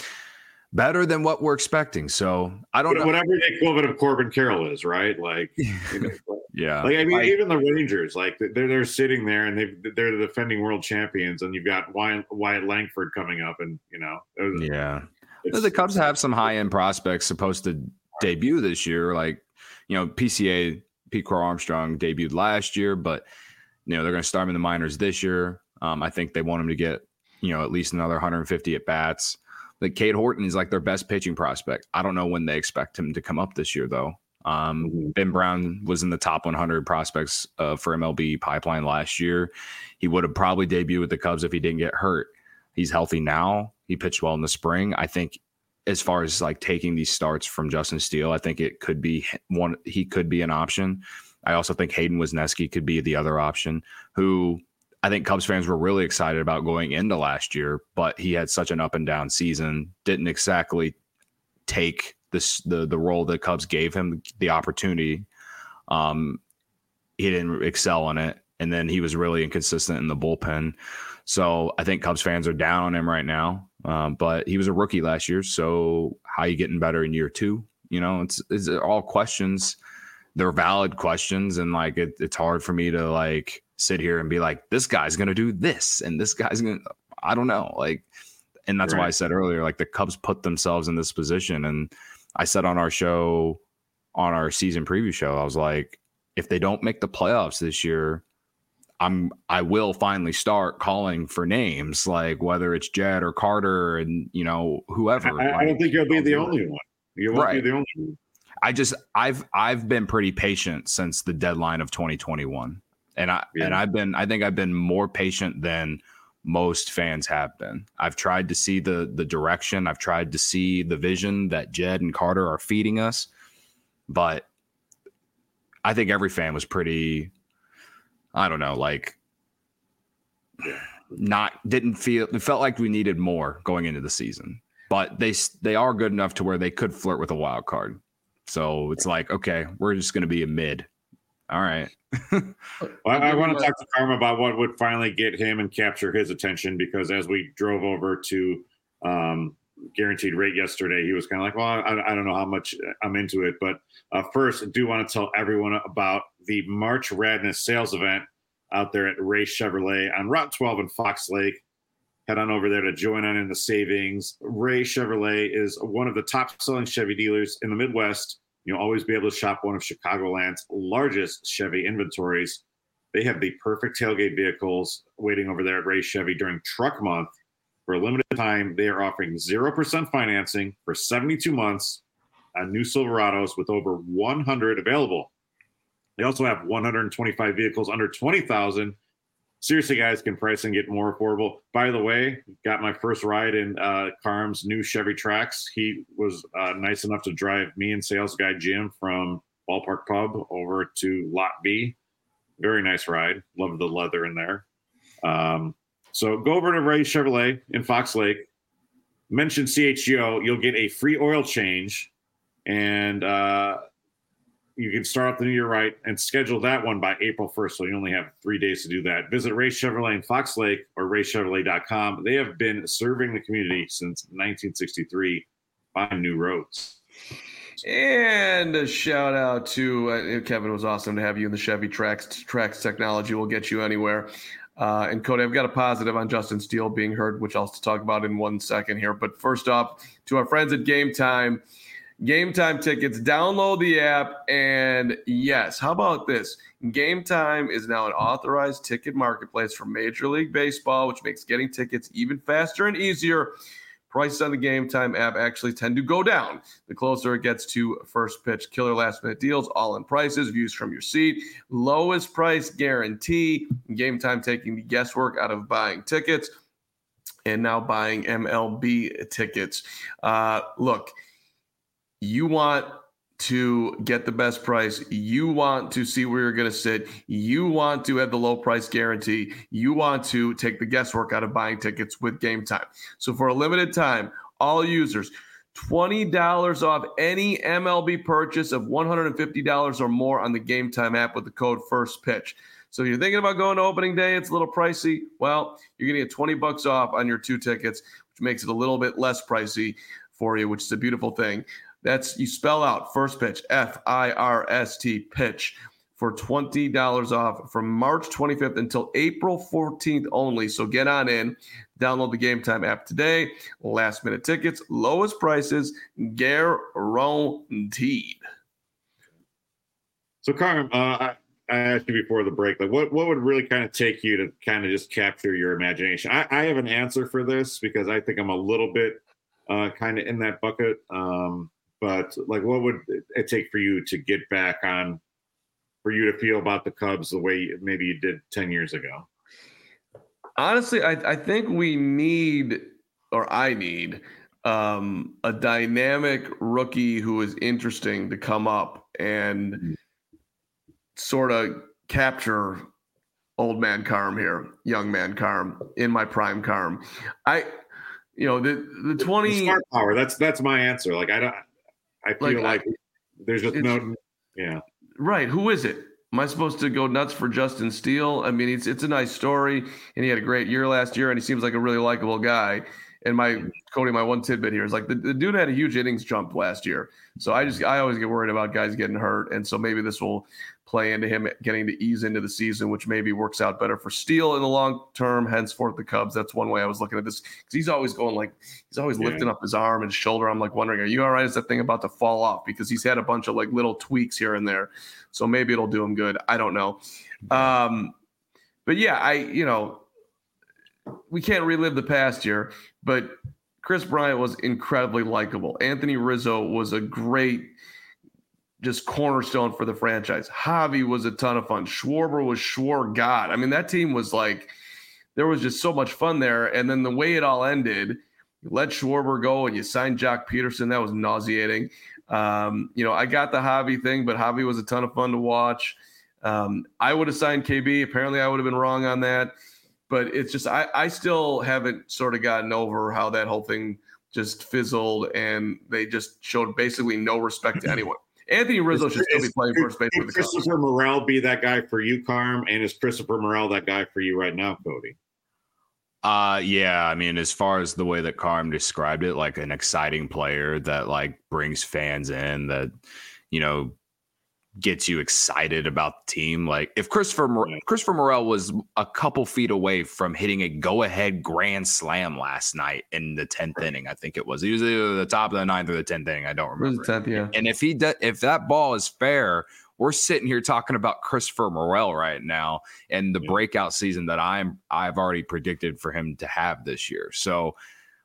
better than what we're expecting. So I don't know. Whatever the equivalent of Corbin Carroll is, right? Like, you know, yeah. Like I mean, I, even the Rangers, like they're they're sitting there and they they're the defending world champions, and you've got Wyatt, Wyatt Langford coming up, and you know, yeah. The Cubs have some high end prospects supposed to debut this year, like you know, P C A Pete Crow Armstrong debuted last year, but you know they're going to start him in the minors this year. Um, I think they want him to get you know at least another one hundred fifty at bats. Like Cade Horton is like their best pitching prospect. I don't know when they expect him to come up this year, though. Um, mm-hmm. Ben Brown was in the top one hundred prospects uh, for M L B Pipeline last year. He would have probably debuted with the Cubs if he didn't get hurt. He's healthy now. He pitched well in the spring. I think as far as like taking these starts from Justin Steele, I think it could be one. He could be an option. I also think Hayden Wesneski could be the other option, who I think Cubs fans were really excited about going into last year, but he had such an up and down season, didn't exactly take this the the role that Cubs gave him the opportunity. Um, he didn't excel in it, and then he was really inconsistent in the bullpen. So I think Cubs fans are down on him right now. Um, but he was a rookie last year, so how are you getting better in year two? You know, it's it's all questions. They're valid questions, and like it, it's hard for me to like sit here and be like, this guy's gonna do this, and this guy's gonna. I don't know, like, and that's right. Why I said earlier, like the Cubs put themselves in this position, and I said on our show, on our season preview show, I was like, if they don't make the playoffs this year, I'm I will finally start calling for names, like whether it's Jed or Carter, and you know whoever. I, like, I don't think you'll be the only one. You won't right. be the only one. I just I've I've been pretty patient since the deadline of twenty twenty-one, and I yeah. and I've been I think I've been more patient than most fans have been. I've tried to see the the direction. I've tried to see the vision that Jed and Carter are feeding us, but I think every fan was pretty. I don't know, like not didn't feel it felt like we needed more going into the season, but they they are good enough to where they could flirt with a wild card. So it's like, okay, we're just going to be a mid. All right. well, I, I want to talk to Karma about what would finally get him and capture his attention, because as we drove over to um, Guaranteed Rate yesterday, he was kind of like, well, I, I don't know how much I'm into it. But uh, first, I do want to tell everyone about the March Radness sales event out there at Ray Chevrolet on Route twelve in Fox Lake. Head on over there to join on in the savings. Ray Chevrolet is one of the top-selling Chevy dealers in the Midwest. You'll always be able to shop one of Chicagoland's largest Chevy inventories. They have the perfect tailgate vehicles waiting over there at Ray Chevy during Truck Month. For a limited time, they are offering zero percent financing for seventy-two months on new Silverados with over one hundred available. They also have one hundred twenty-five vehicles under twenty thousand dollars. Seriously, guys, can pricing get more affordable? By the way, got my first ride in uh, Carm's new Chevy Trax. He was uh, nice enough to drive me and sales guy Jim from Ballpark Pub over to Lot B. Very nice ride. Love the leather in there. Um, so go over to Ray Chevrolet in Fox Lake. Mention C H G O. You'll get a free oil change, and uh, you can start off the new year right and schedule that one by April first. So you only have three days to do that. Visit Ray Chevrolet in Fox Lake or ray chevrolet dot com. They have been serving the community since nineteen sixty-three, buying new roads. And a shout out to uh, Kevin. It was awesome to have you in the Chevy Trax. Trax technology will get you anywhere. Uh, and Cody, I've got a positive on Justin Steele being heard, which I'll talk about in one second here. But first off, to our friends at Game Time. Game Time tickets, download the app, and yes, how about this? Game Time is now an authorized ticket marketplace for Major League Baseball, which makes getting tickets even faster and easier. Prices on the Game Time app actually tend to go down the closer it gets to first pitch. Killer last-minute deals, all-in prices, views from your seat, lowest price guarantee. Game Time taking the guesswork out of buying tickets and now buying M L B tickets. Uh, look, you want to get the best price. You want to see where you're going to sit. You want to have the low price guarantee. You want to take the guesswork out of buying tickets with Game Time. So for a limited time, all users, twenty dollars off any M L B purchase of one hundred fifty dollars or more on the Game Time app with the code FIRSTPITCH. So if you're thinking about going to opening day, it's a little pricey. Well, you're going to get twenty bucks off on your two tickets, which makes it a little bit less pricey for you, which is a beautiful thing. That's, you spell out First Pitch, F I R S T, pitch, for twenty dollars off from March twenty-fifth until April fourteenth only. So get on in, download the Game Time app today. Last minute tickets, lowest prices, guaranteed. So, Carm, uh, I, I asked you before the break, like what, what would really kind of take you to kind of just capture your imagination? I, I have an answer for this because I think I'm a little bit uh, kind of in that bucket. Um, but like, what would it take for you to get back on, for you to feel about the Cubs the way maybe you did ten years ago? Honestly, I, I think we need, or I need, um, a dynamic rookie who is interesting to come up and mm-hmm. sort of capture old man Carm here, young man Carm, in my prime Carm. I, you know, the the twenty the smart power. That's that's my answer. Like I don't. I feel like, like I, there's just no. Yeah. Right. Who is it? Am I supposed to go nuts for Justin Steele? I mean, it's it's a nice story, and he had a great year last year, and he seems like a really likable guy. And my Cody, my one tidbit here is like the, the dude had a huge innings jump last year. So I just I always get worried about guys getting hurt, and so maybe this will play into him getting to ease into the season, which maybe works out better for Steele in the long term. Henceforth, the Cubs. That's one way I was looking at this, because he's always going like he's always yeah. lifting up his arm and shoulder. I'm like wondering, are you all right? Is that thing about to fall off? Because he's had a bunch of like little tweaks here and there. So maybe it'll do him good. I don't know. Um, but yeah, I you know we can't relive the past year, but Kris Bryant was incredibly likable. Anthony Rizzo was a great just cornerstone for the franchise. Javi was a ton of fun. Schwarber was Schwar God. I mean, that team was like, there was just so much fun there. And then the way it all ended, you let Schwarber go and you signed Jock Peterson. That was nauseating. Um, you know, I got the Javi thing, but Javi was a ton of fun to watch. Um, I would have signed K B. Apparently I would have been wrong on that. But it's just, I, I still haven't sort of gotten over how that whole thing just fizzled and they just showed basically no respect to anyone. Anthony Rizzo should still be playing first base with the Cubs. Christopher Morel be that guy for you, Carm? And is Christopher Morel that guy for you right now, Cody? Uh, yeah, I mean, as far as the way that Carm described it, like an exciting player that like brings fans in, that, you know, gets you excited about the team. Like if Christopher Mor- Christopher Morel was a couple feet away from hitting a go-ahead grand slam last night in the tenth inning, I think it was. He was either the top of the ninth or the tenth inning. I don't remember. tenth, yeah. And if he de- if that ball is fair, we're sitting here talking about Christopher Morel right now and the yeah. breakout season that I'm I've already predicted for him to have this year. So,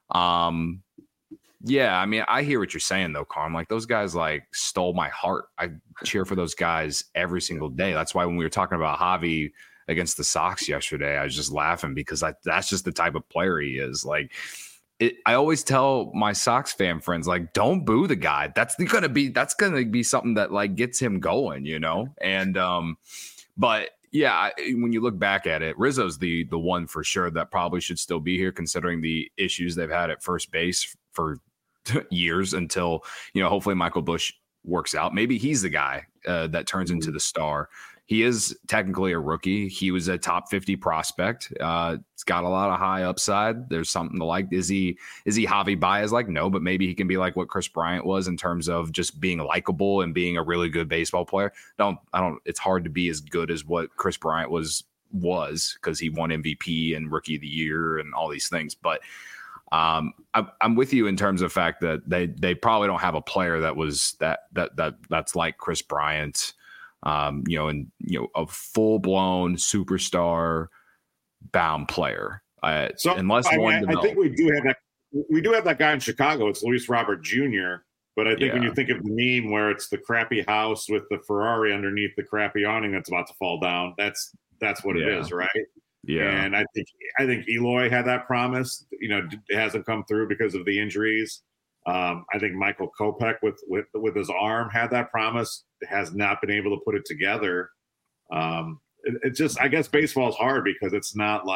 um. Yeah, I mean, I hear what you're saying, though, Carm. Like, those guys, like, stole my heart. I cheer for those guys every single day. That's why when we were talking about Javi against the Sox yesterday, I was just laughing because I, that's just the type of player he is. Like, it, I always tell my Sox fan friends, like, don't boo the guy. That's going to be that's going to be something that, like, gets him going, you know? And, um, but, yeah, when you look back at it, Rizzo's the the one for sure that probably should still be here, considering the issues they've had at first base for years until, you know, hopefully Michael Busch works out. Maybe he's the guy uh, that turns into the star. He is technically a rookie. He was a top fifty prospect. Uh, it's got a lot of high upside. There's something to like. Is he is he Javi Baez? Like, no, but maybe he can be like what Kris Bryant was in terms of just being likable and being a really good baseball player. Don't I don't. It's hard to be as good as what Kris Bryant was was because he won M V P and Rookie of the Year and all these things, but. Um, I, I'm with you in terms of the fact that they they probably don't have a player that was that that that that's like Kris Bryant, um, you know, and you know, a full blown superstar bound player. Uh, so unless I, one, I, I think we do have that. We do have that guy in Chicago. It's Luis Robert Junior But I think yeah. when you think of the meme where it's the crappy house with the Ferrari underneath the crappy awning that's about to fall down, that's that's what yeah. it is, right? Yeah, and I think I think Eloy had that promise. You know, it hasn't come through because of the injuries. Um, I think Michael Kopech with with with his arm had that promise. Has not been able to put it together. Um, it, it just, I guess, baseball is hard because it's not like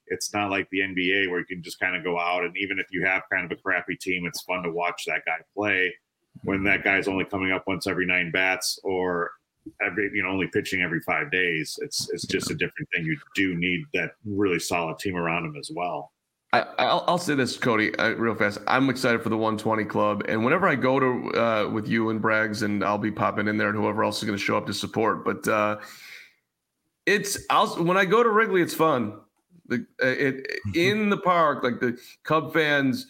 it's not like the N B A where you can just kind of go out, and even if you have kind of a crappy team, it's fun to watch that guy play when that guy's only coming up once every nine bats or every, you know, only pitching every five days. It's it's just a different thing. You do need that really solid team around him as well. I, I'll, I'll say this, Cody, uh, real fast. I'm excited for the one twenty club, and whenever I go to uh, with you and Braggs, and I'll be popping in there, and whoever else is going to show up to support. But uh, it's I'll when I go to Wrigley, it's fun. The it in the park, like the Cub fans,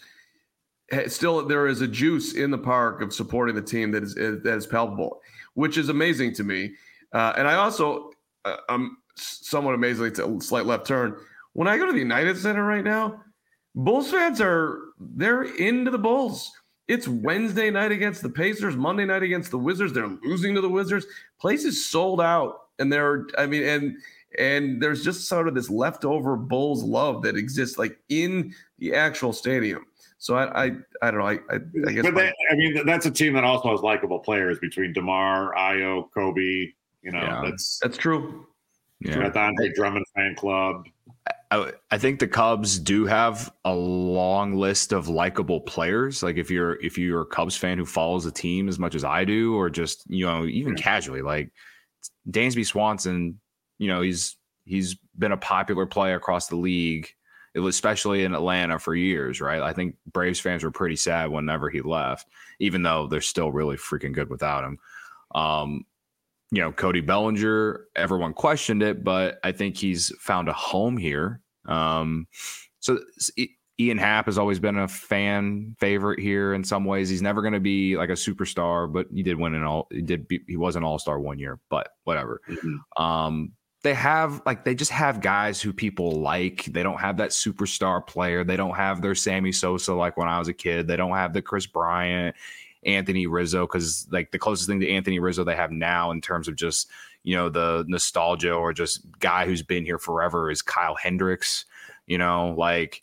still there is a juice in the park of supporting the team that is that is palpable, which is amazing to me. Uh, and I also uh, I'm somewhat amazingly to a slight left turn when I go to the United Center right now. Bulls fans are they're into the Bulls. It's Wednesday night against the Pacers, Monday night against the Wizards. They're losing to the Wizards. Place is sold out, and they're I mean, and and there's just sort of this leftover Bulls love that exists like in the actual stadium. So I I, I don't know. I I, I guess. But they, I mean, that's a team that also has likable players between DeMar, Ayo, Kobe. You know, yeah, that's that's true. Yeah, the Andre Drummond fan club. I, I think the Cubs do have a long list of likable players. Like if you're if you're a Cubs fan who follows the team as much as I do, or just, you know, even yeah. casually, like Dansby Swanson, you know, he's he's been a popular player across the league, especially in Atlanta for years, right? I think Braves fans were pretty sad whenever he left, even though they're still really freaking good without him. Um, You know, Cody Bellinger, everyone questioned it, but I think he's found a home here. Um, so Ian Happ has always been a fan favorite here in some ways. He's never going to be like a superstar, but he did win an all. He did. Be, he was an all-star one year, but whatever. Mm-hmm. Um, they have like they just have guys who people like. They don't have that superstar player. They don't have their Sammy Sosa like when I was a kid. They don't have the Chris Bryant, Anthony Rizzo, because like the closest thing to Anthony Rizzo they have now in terms of just, you know, the nostalgia or just guy who's been here forever is Kyle Hendricks, you know, like,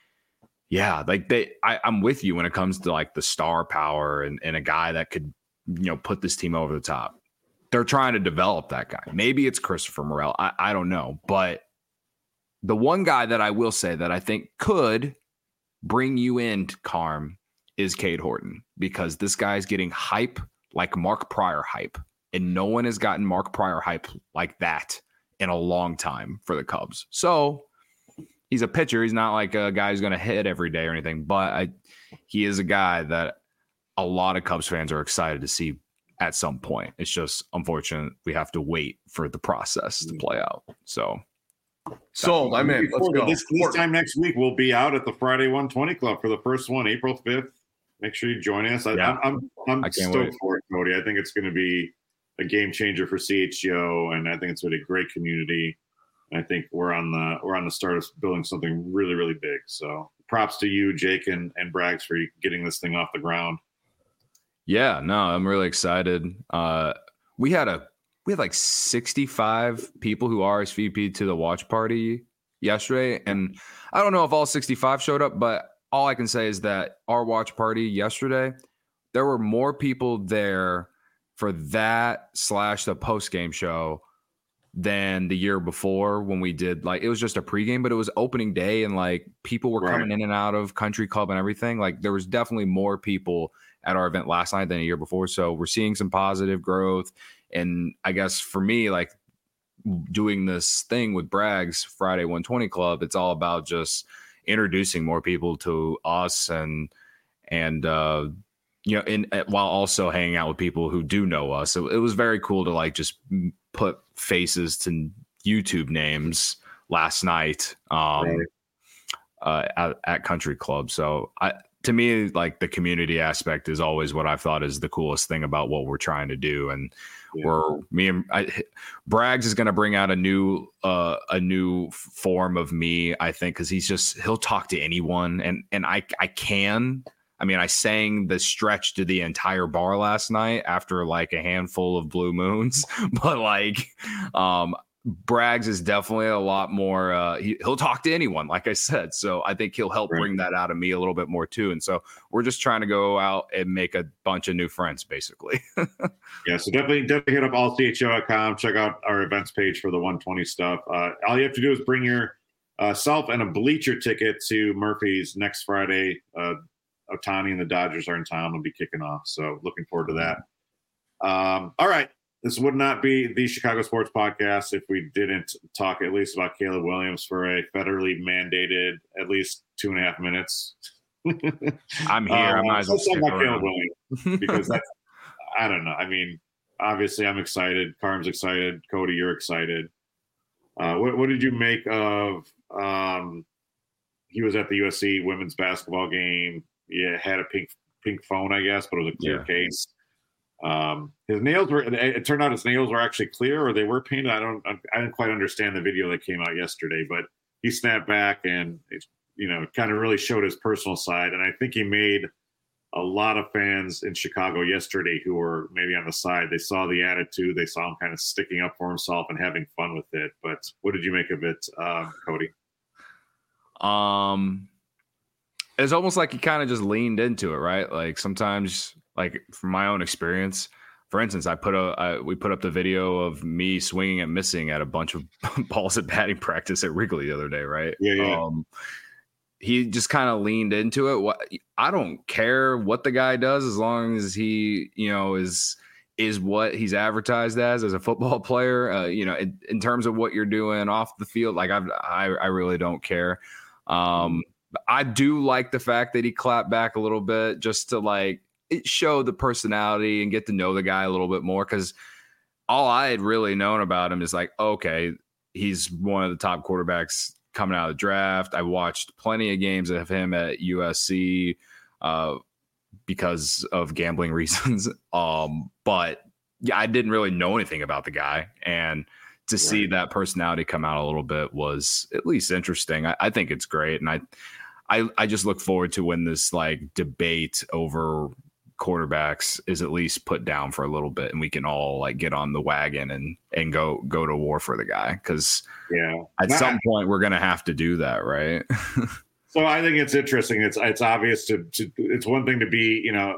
yeah, like they, I, I'm with you when it comes to like the star power and, and a guy that could, you know, put this team over the top. They're trying to develop that guy. Maybe it's Christopher Morel. I, I don't know. But the one guy that I will say that I think could bring you in, Carm, is Cade Horton, because this guy's getting hype like Mark Pryor hype, and no one has gotten Mark Pryor hype like that in a long time for the Cubs. So he's a pitcher. He's not like a guy who's going to hit every day or anything, but I, he is a guy that a lot of Cubs fans are excited to see at some point. It's just unfortunate we have to wait for the process to play out. So sold. I'm in. Let's go. This, this time next week, we'll be out at the Friday one twenty Club for the first one, April fifth. Make sure you join us. I, yeah. I'm I'm, I'm stoked wait. for it, Cody. I think it's going to be a game changer for C H G O, and I think it's going to be a great community. And I think we're on the we're on the start of building something really, really big. So props to you, Jake and, and Braggs, for getting this thing off the ground. Yeah, no, I'm really excited. Uh, we had a we had like sixty-five people who R S V P'd to the watch party yesterday, and I don't know if all sixty-five showed up, but all I can say is that our watch party yesterday, there were more people there for that slash the post-game show than the year before when we did, like, it was just a pregame, but it was opening day and like people were right. coming in and out of Country Club and everything. Like there was definitely more people at our event last night than a year before. So we're seeing some positive growth. And I guess for me, like doing this thing with Braggs Friday one twenty Club, it's all about just introducing more people to us and and uh you know in while also hanging out with people who do know us. So it was very cool to like just put faces to YouTube names last night um right. uh at, at Country Club. So I to me, like the community aspect is always what I thought is the coolest thing about what we're trying to do. And yeah. we're me and I, Braggs is going to bring out a new uh, a new form of me, I think, because he's just he'll talk to anyone, and and I I can. I mean, I sang the stretch to the entire bar last night after like a handful of blue moons, but like um Braggs is definitely a lot more uh he, he'll talk to anyone, like I said, so I think he'll help right. bring that out of me a little bit more too. And so we're just trying to go out and make a bunch of new friends basically. Yeah, so definitely definitely hit up all c h o dot com, check out our events page for the one twenty stuff. Uh all you have to do is bring your uh, self and a bleacher ticket to Murphy's next Friday. Uh, Ohtani and the Dodgers are in town. We'll be kicking off. So looking forward to that. Um, all right. This would not be the Chicago Sports Podcast if we didn't talk at least about Caleb Williams for a federally mandated at least two and a half minutes. I'm here. Um, I might as well stick about Caleb Williams because that's, I don't know. I mean, obviously I'm excited. Carm's excited. Cody, you're excited. Uh, what, what did you make of, um, he was at the U S C women's basketball game. Yeah. Had a pink, pink phone, I guess, but it was a clear yeah. case. Um, his nails were, it turned out his nails were actually clear or they were painted. I don't, I didn't quite understand the video that came out yesterday, but he snapped back and, it, you know, kind of really showed his personal side. And I think he made a lot of fans in Chicago yesterday who were maybe on the side. They saw the attitude. They saw him kind of sticking up for himself and having fun with it. But what did you make of it, uh, Cody? Um, it's almost like he kind of just leaned into it, right? Like sometimes, like from my own experience, for instance, I put a I, we put up the video of me swinging and missing at a bunch of balls at batting practice at Wrigley the other day, right? Yeah, yeah. Um, he just kind of leaned into it. What I don't care what the guy does as long as he, you know, is is what he's advertised as as a football player. Uh, you know, in, in terms of what you're doing off the field, like I've, I I really don't care. Um, I do like the fact that he clapped back a little bit just to like it show the personality and get to know the guy a little bit more. Because all I had really known about him is like, okay, he's one of the top quarterbacks coming out of the draft. I watched plenty of games of him at U S C uh, because of gambling reasons. Um, but yeah, I didn't really know anything about the guy. And to right. see that personality come out a little bit was at least interesting. I, I think it's great. And I, I, I just look forward to when this like debate over quarterbacks is at least put down for a little bit and we can all like get on the wagon and and go go to war for the guy, because yeah at Not, some point we're gonna have to do that, right? So I think it's interesting. It's it's obvious to, to it's one thing to be, you know,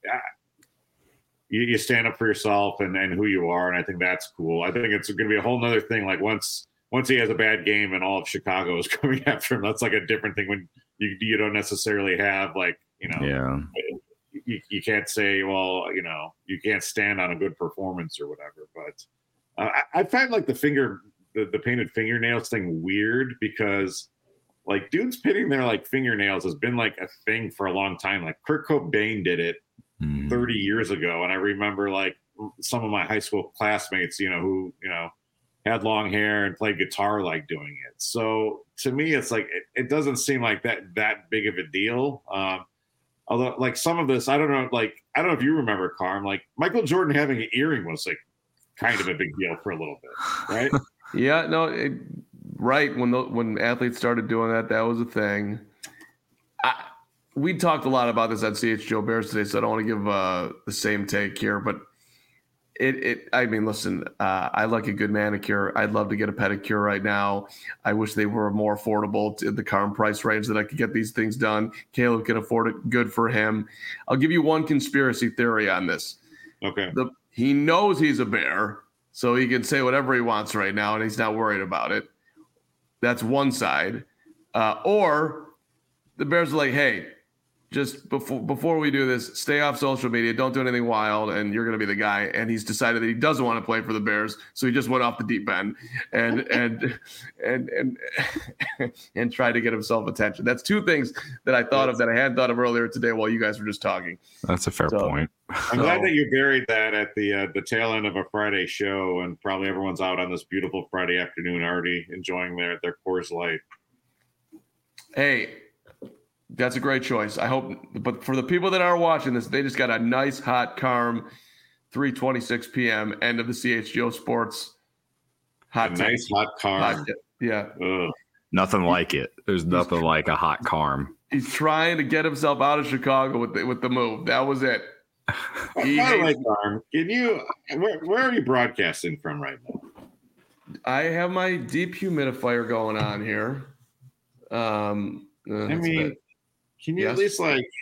you, you stand up for yourself and, and who you are, and I think that's cool. I think it's going to be a whole nother thing. Like once once he has a bad game and all of Chicago is coming after him, that's like a different thing when you you don't necessarily have like, you know, yeah. You, you can't say, well, you know, you can't stand on a good performance or whatever. But uh, I, I find like the finger, the, the painted fingernails thing weird because like dudes pitting their like fingernails has been like a thing for a long time. Like Kurt Cobain did it mm. thirty years ago. And I remember like some of my high school classmates, you know, who, you know, had long hair and played guitar, like doing it. So to me, it's like, it, it doesn't seem like that, that big of a deal. Um, Although, like some of this, I don't know. Like I don't know if you remember, Carm. Like Michael Jordan having an earring was like kind of a big deal for a little bit, right? Yeah, no, it, right. When the, when athletes started doing that, that was a thing. I, we talked a lot about this at C H G O Bears today, so I don't want to give uh, the same take here. But it, it I mean, listen, uh, I like a good manicure. I'd love to get a pedicure right now. I wish they were more affordable to the current price range that I could get these things done. Caleb can afford it. Good for him. I'll give you one conspiracy theory on this. Okay. The, he knows he's a Bear, so he can say whatever he wants right now, and he's not worried about it. That's one side. Uh, or the Bears are like, hey, just before before we do this, stay off social media. Don't do anything wild, and you're going to be the guy. And he's decided that he doesn't want to play for the Bears, so he just went off the deep end and and and and and tried to get himself attention. That's two things that I thought of that I hadn't thought of earlier today while you guys were just talking. That's a fair so, point. I'm so, glad that you buried that at the uh, the tail end of a Friday show, and probably everyone's out on this beautiful Friday afternoon already enjoying their their Coors Light. Hey. That's a great choice. I hope, but for the people that are watching this, they just got a nice hot Carm, three twenty-six p.m. end of the C H G O Sports. Hot, a nice hot Carm. Hot, yeah, Ugh. Nothing like it. There's nothing like a hot Carm. He's trying to get himself out of Chicago with the, with the move. That was it. He I like Carm. Can you? Where, where are you broadcasting from right now? I have my deep humidifier going on here. Um, uh, I mean. Can you yes. at least like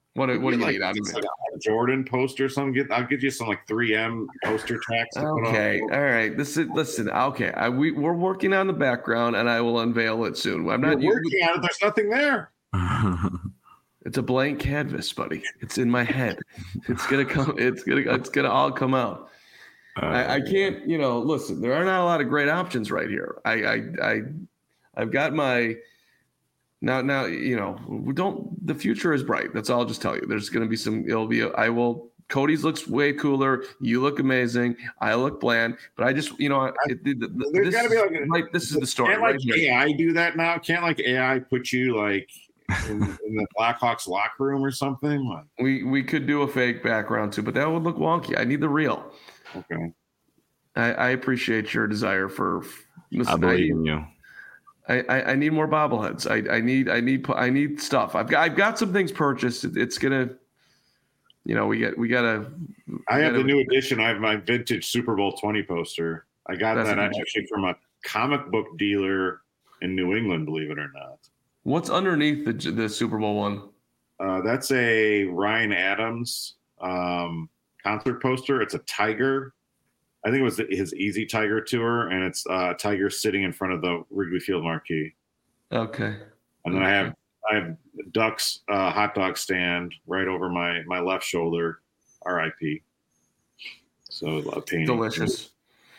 What what do you like, need out of me? Like a Jordan poster or something. Get, I'll get you some like three M poster tracks. To Okay, put on. all right. This is listen. Okay, I, we we're working on the background, and I will unveil it soon. I'm not You're working on it. There's nothing there. It's a blank canvas, buddy. It's in my head. It's gonna come. It's gonna. It's gonna all come out. Uh, I, I can't. You know, listen. There are not a lot of great options right here. I I I I've got my. Now, now, you know, we don't, the future is bright. That's all I'll just tell you. There's going to be some, it'll be, a, I will, Cody's looks way cooler. You look amazing. I look bland, but I just, you know, it, it, there's got to be like, right, this is the story. Can't like right here. A I do that now? Can't like A I put you like in, in the Blackhawks locker room or something? Like, we, we could do a fake background too, but that would look wonky. I need the real. Okay. I, I appreciate your desire for, listen, I believe I, in you. I, I, I need more bobbleheads. I, I need I need I need stuff. I've got I've got some things purchased. It, it's gonna, you know, we get we gotta. We I have gotta, the new edition. I have my vintage Super Bowl twenty poster. I got That's that amazing. actually from a comic book dealer in New England. Believe it or not. What's underneath the the Super Bowl one? Uh, that's a Ryan Adams um, concert poster. It's a tiger. I think it was his Easy Tiger tour, and it's uh, Tiger sitting in front of the Wrigley Field marquee. Okay. And then okay. I have I have Ducks uh, hot dog stand right over my my left shoulder. R I P. So a painting. Delicious.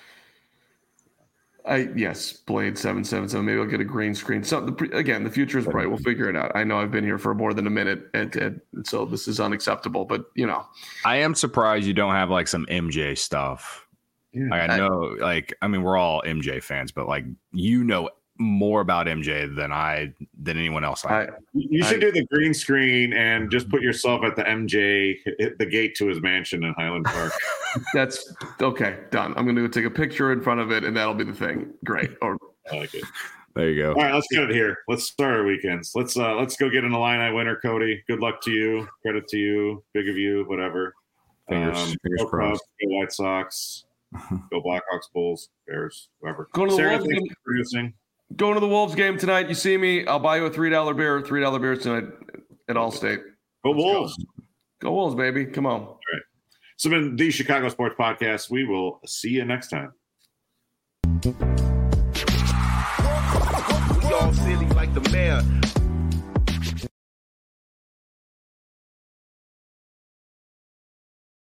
I yes, Blade seven seven seven. Maybe I'll get a green screen. So the, again, the future is bright. We'll figure it out. I know I've been here for more than a minute, and, and so this is unacceptable. But you know, I am surprised you don't have like some M J stuff. Yeah. Like I know, like I mean, we're all M J fans, but like you know more about M J than I than anyone else. I, I You should I, do the green screen and just put yourself at the M J, hit the gate to his mansion in Highland Park. that's okay. Done. I'm going to take a picture in front of it, and that'll be the thing. Great. Or I like it. there you go. All right, let's get it here. Let's start our weekends. Let's uh let's go get an Illini winner, Cody. Good luck to you. Credit to you. Big of you. Whatever. Fingers, Um, fingers go crossed. Cubs, go White Sox. Go Blackhawks, Bulls, Bears, whoever. Going to the Sarah, Wolves thanks game. for producing. Going to the Wolves game tonight. You see me, I'll buy you a three dollar beer. Three dollar beers tonight at Allstate. Go Wolves. Go Wolves, baby. Come on. All right. So, been the Chicago Sports Podcast. We will see you next time. We all silly like the mayor.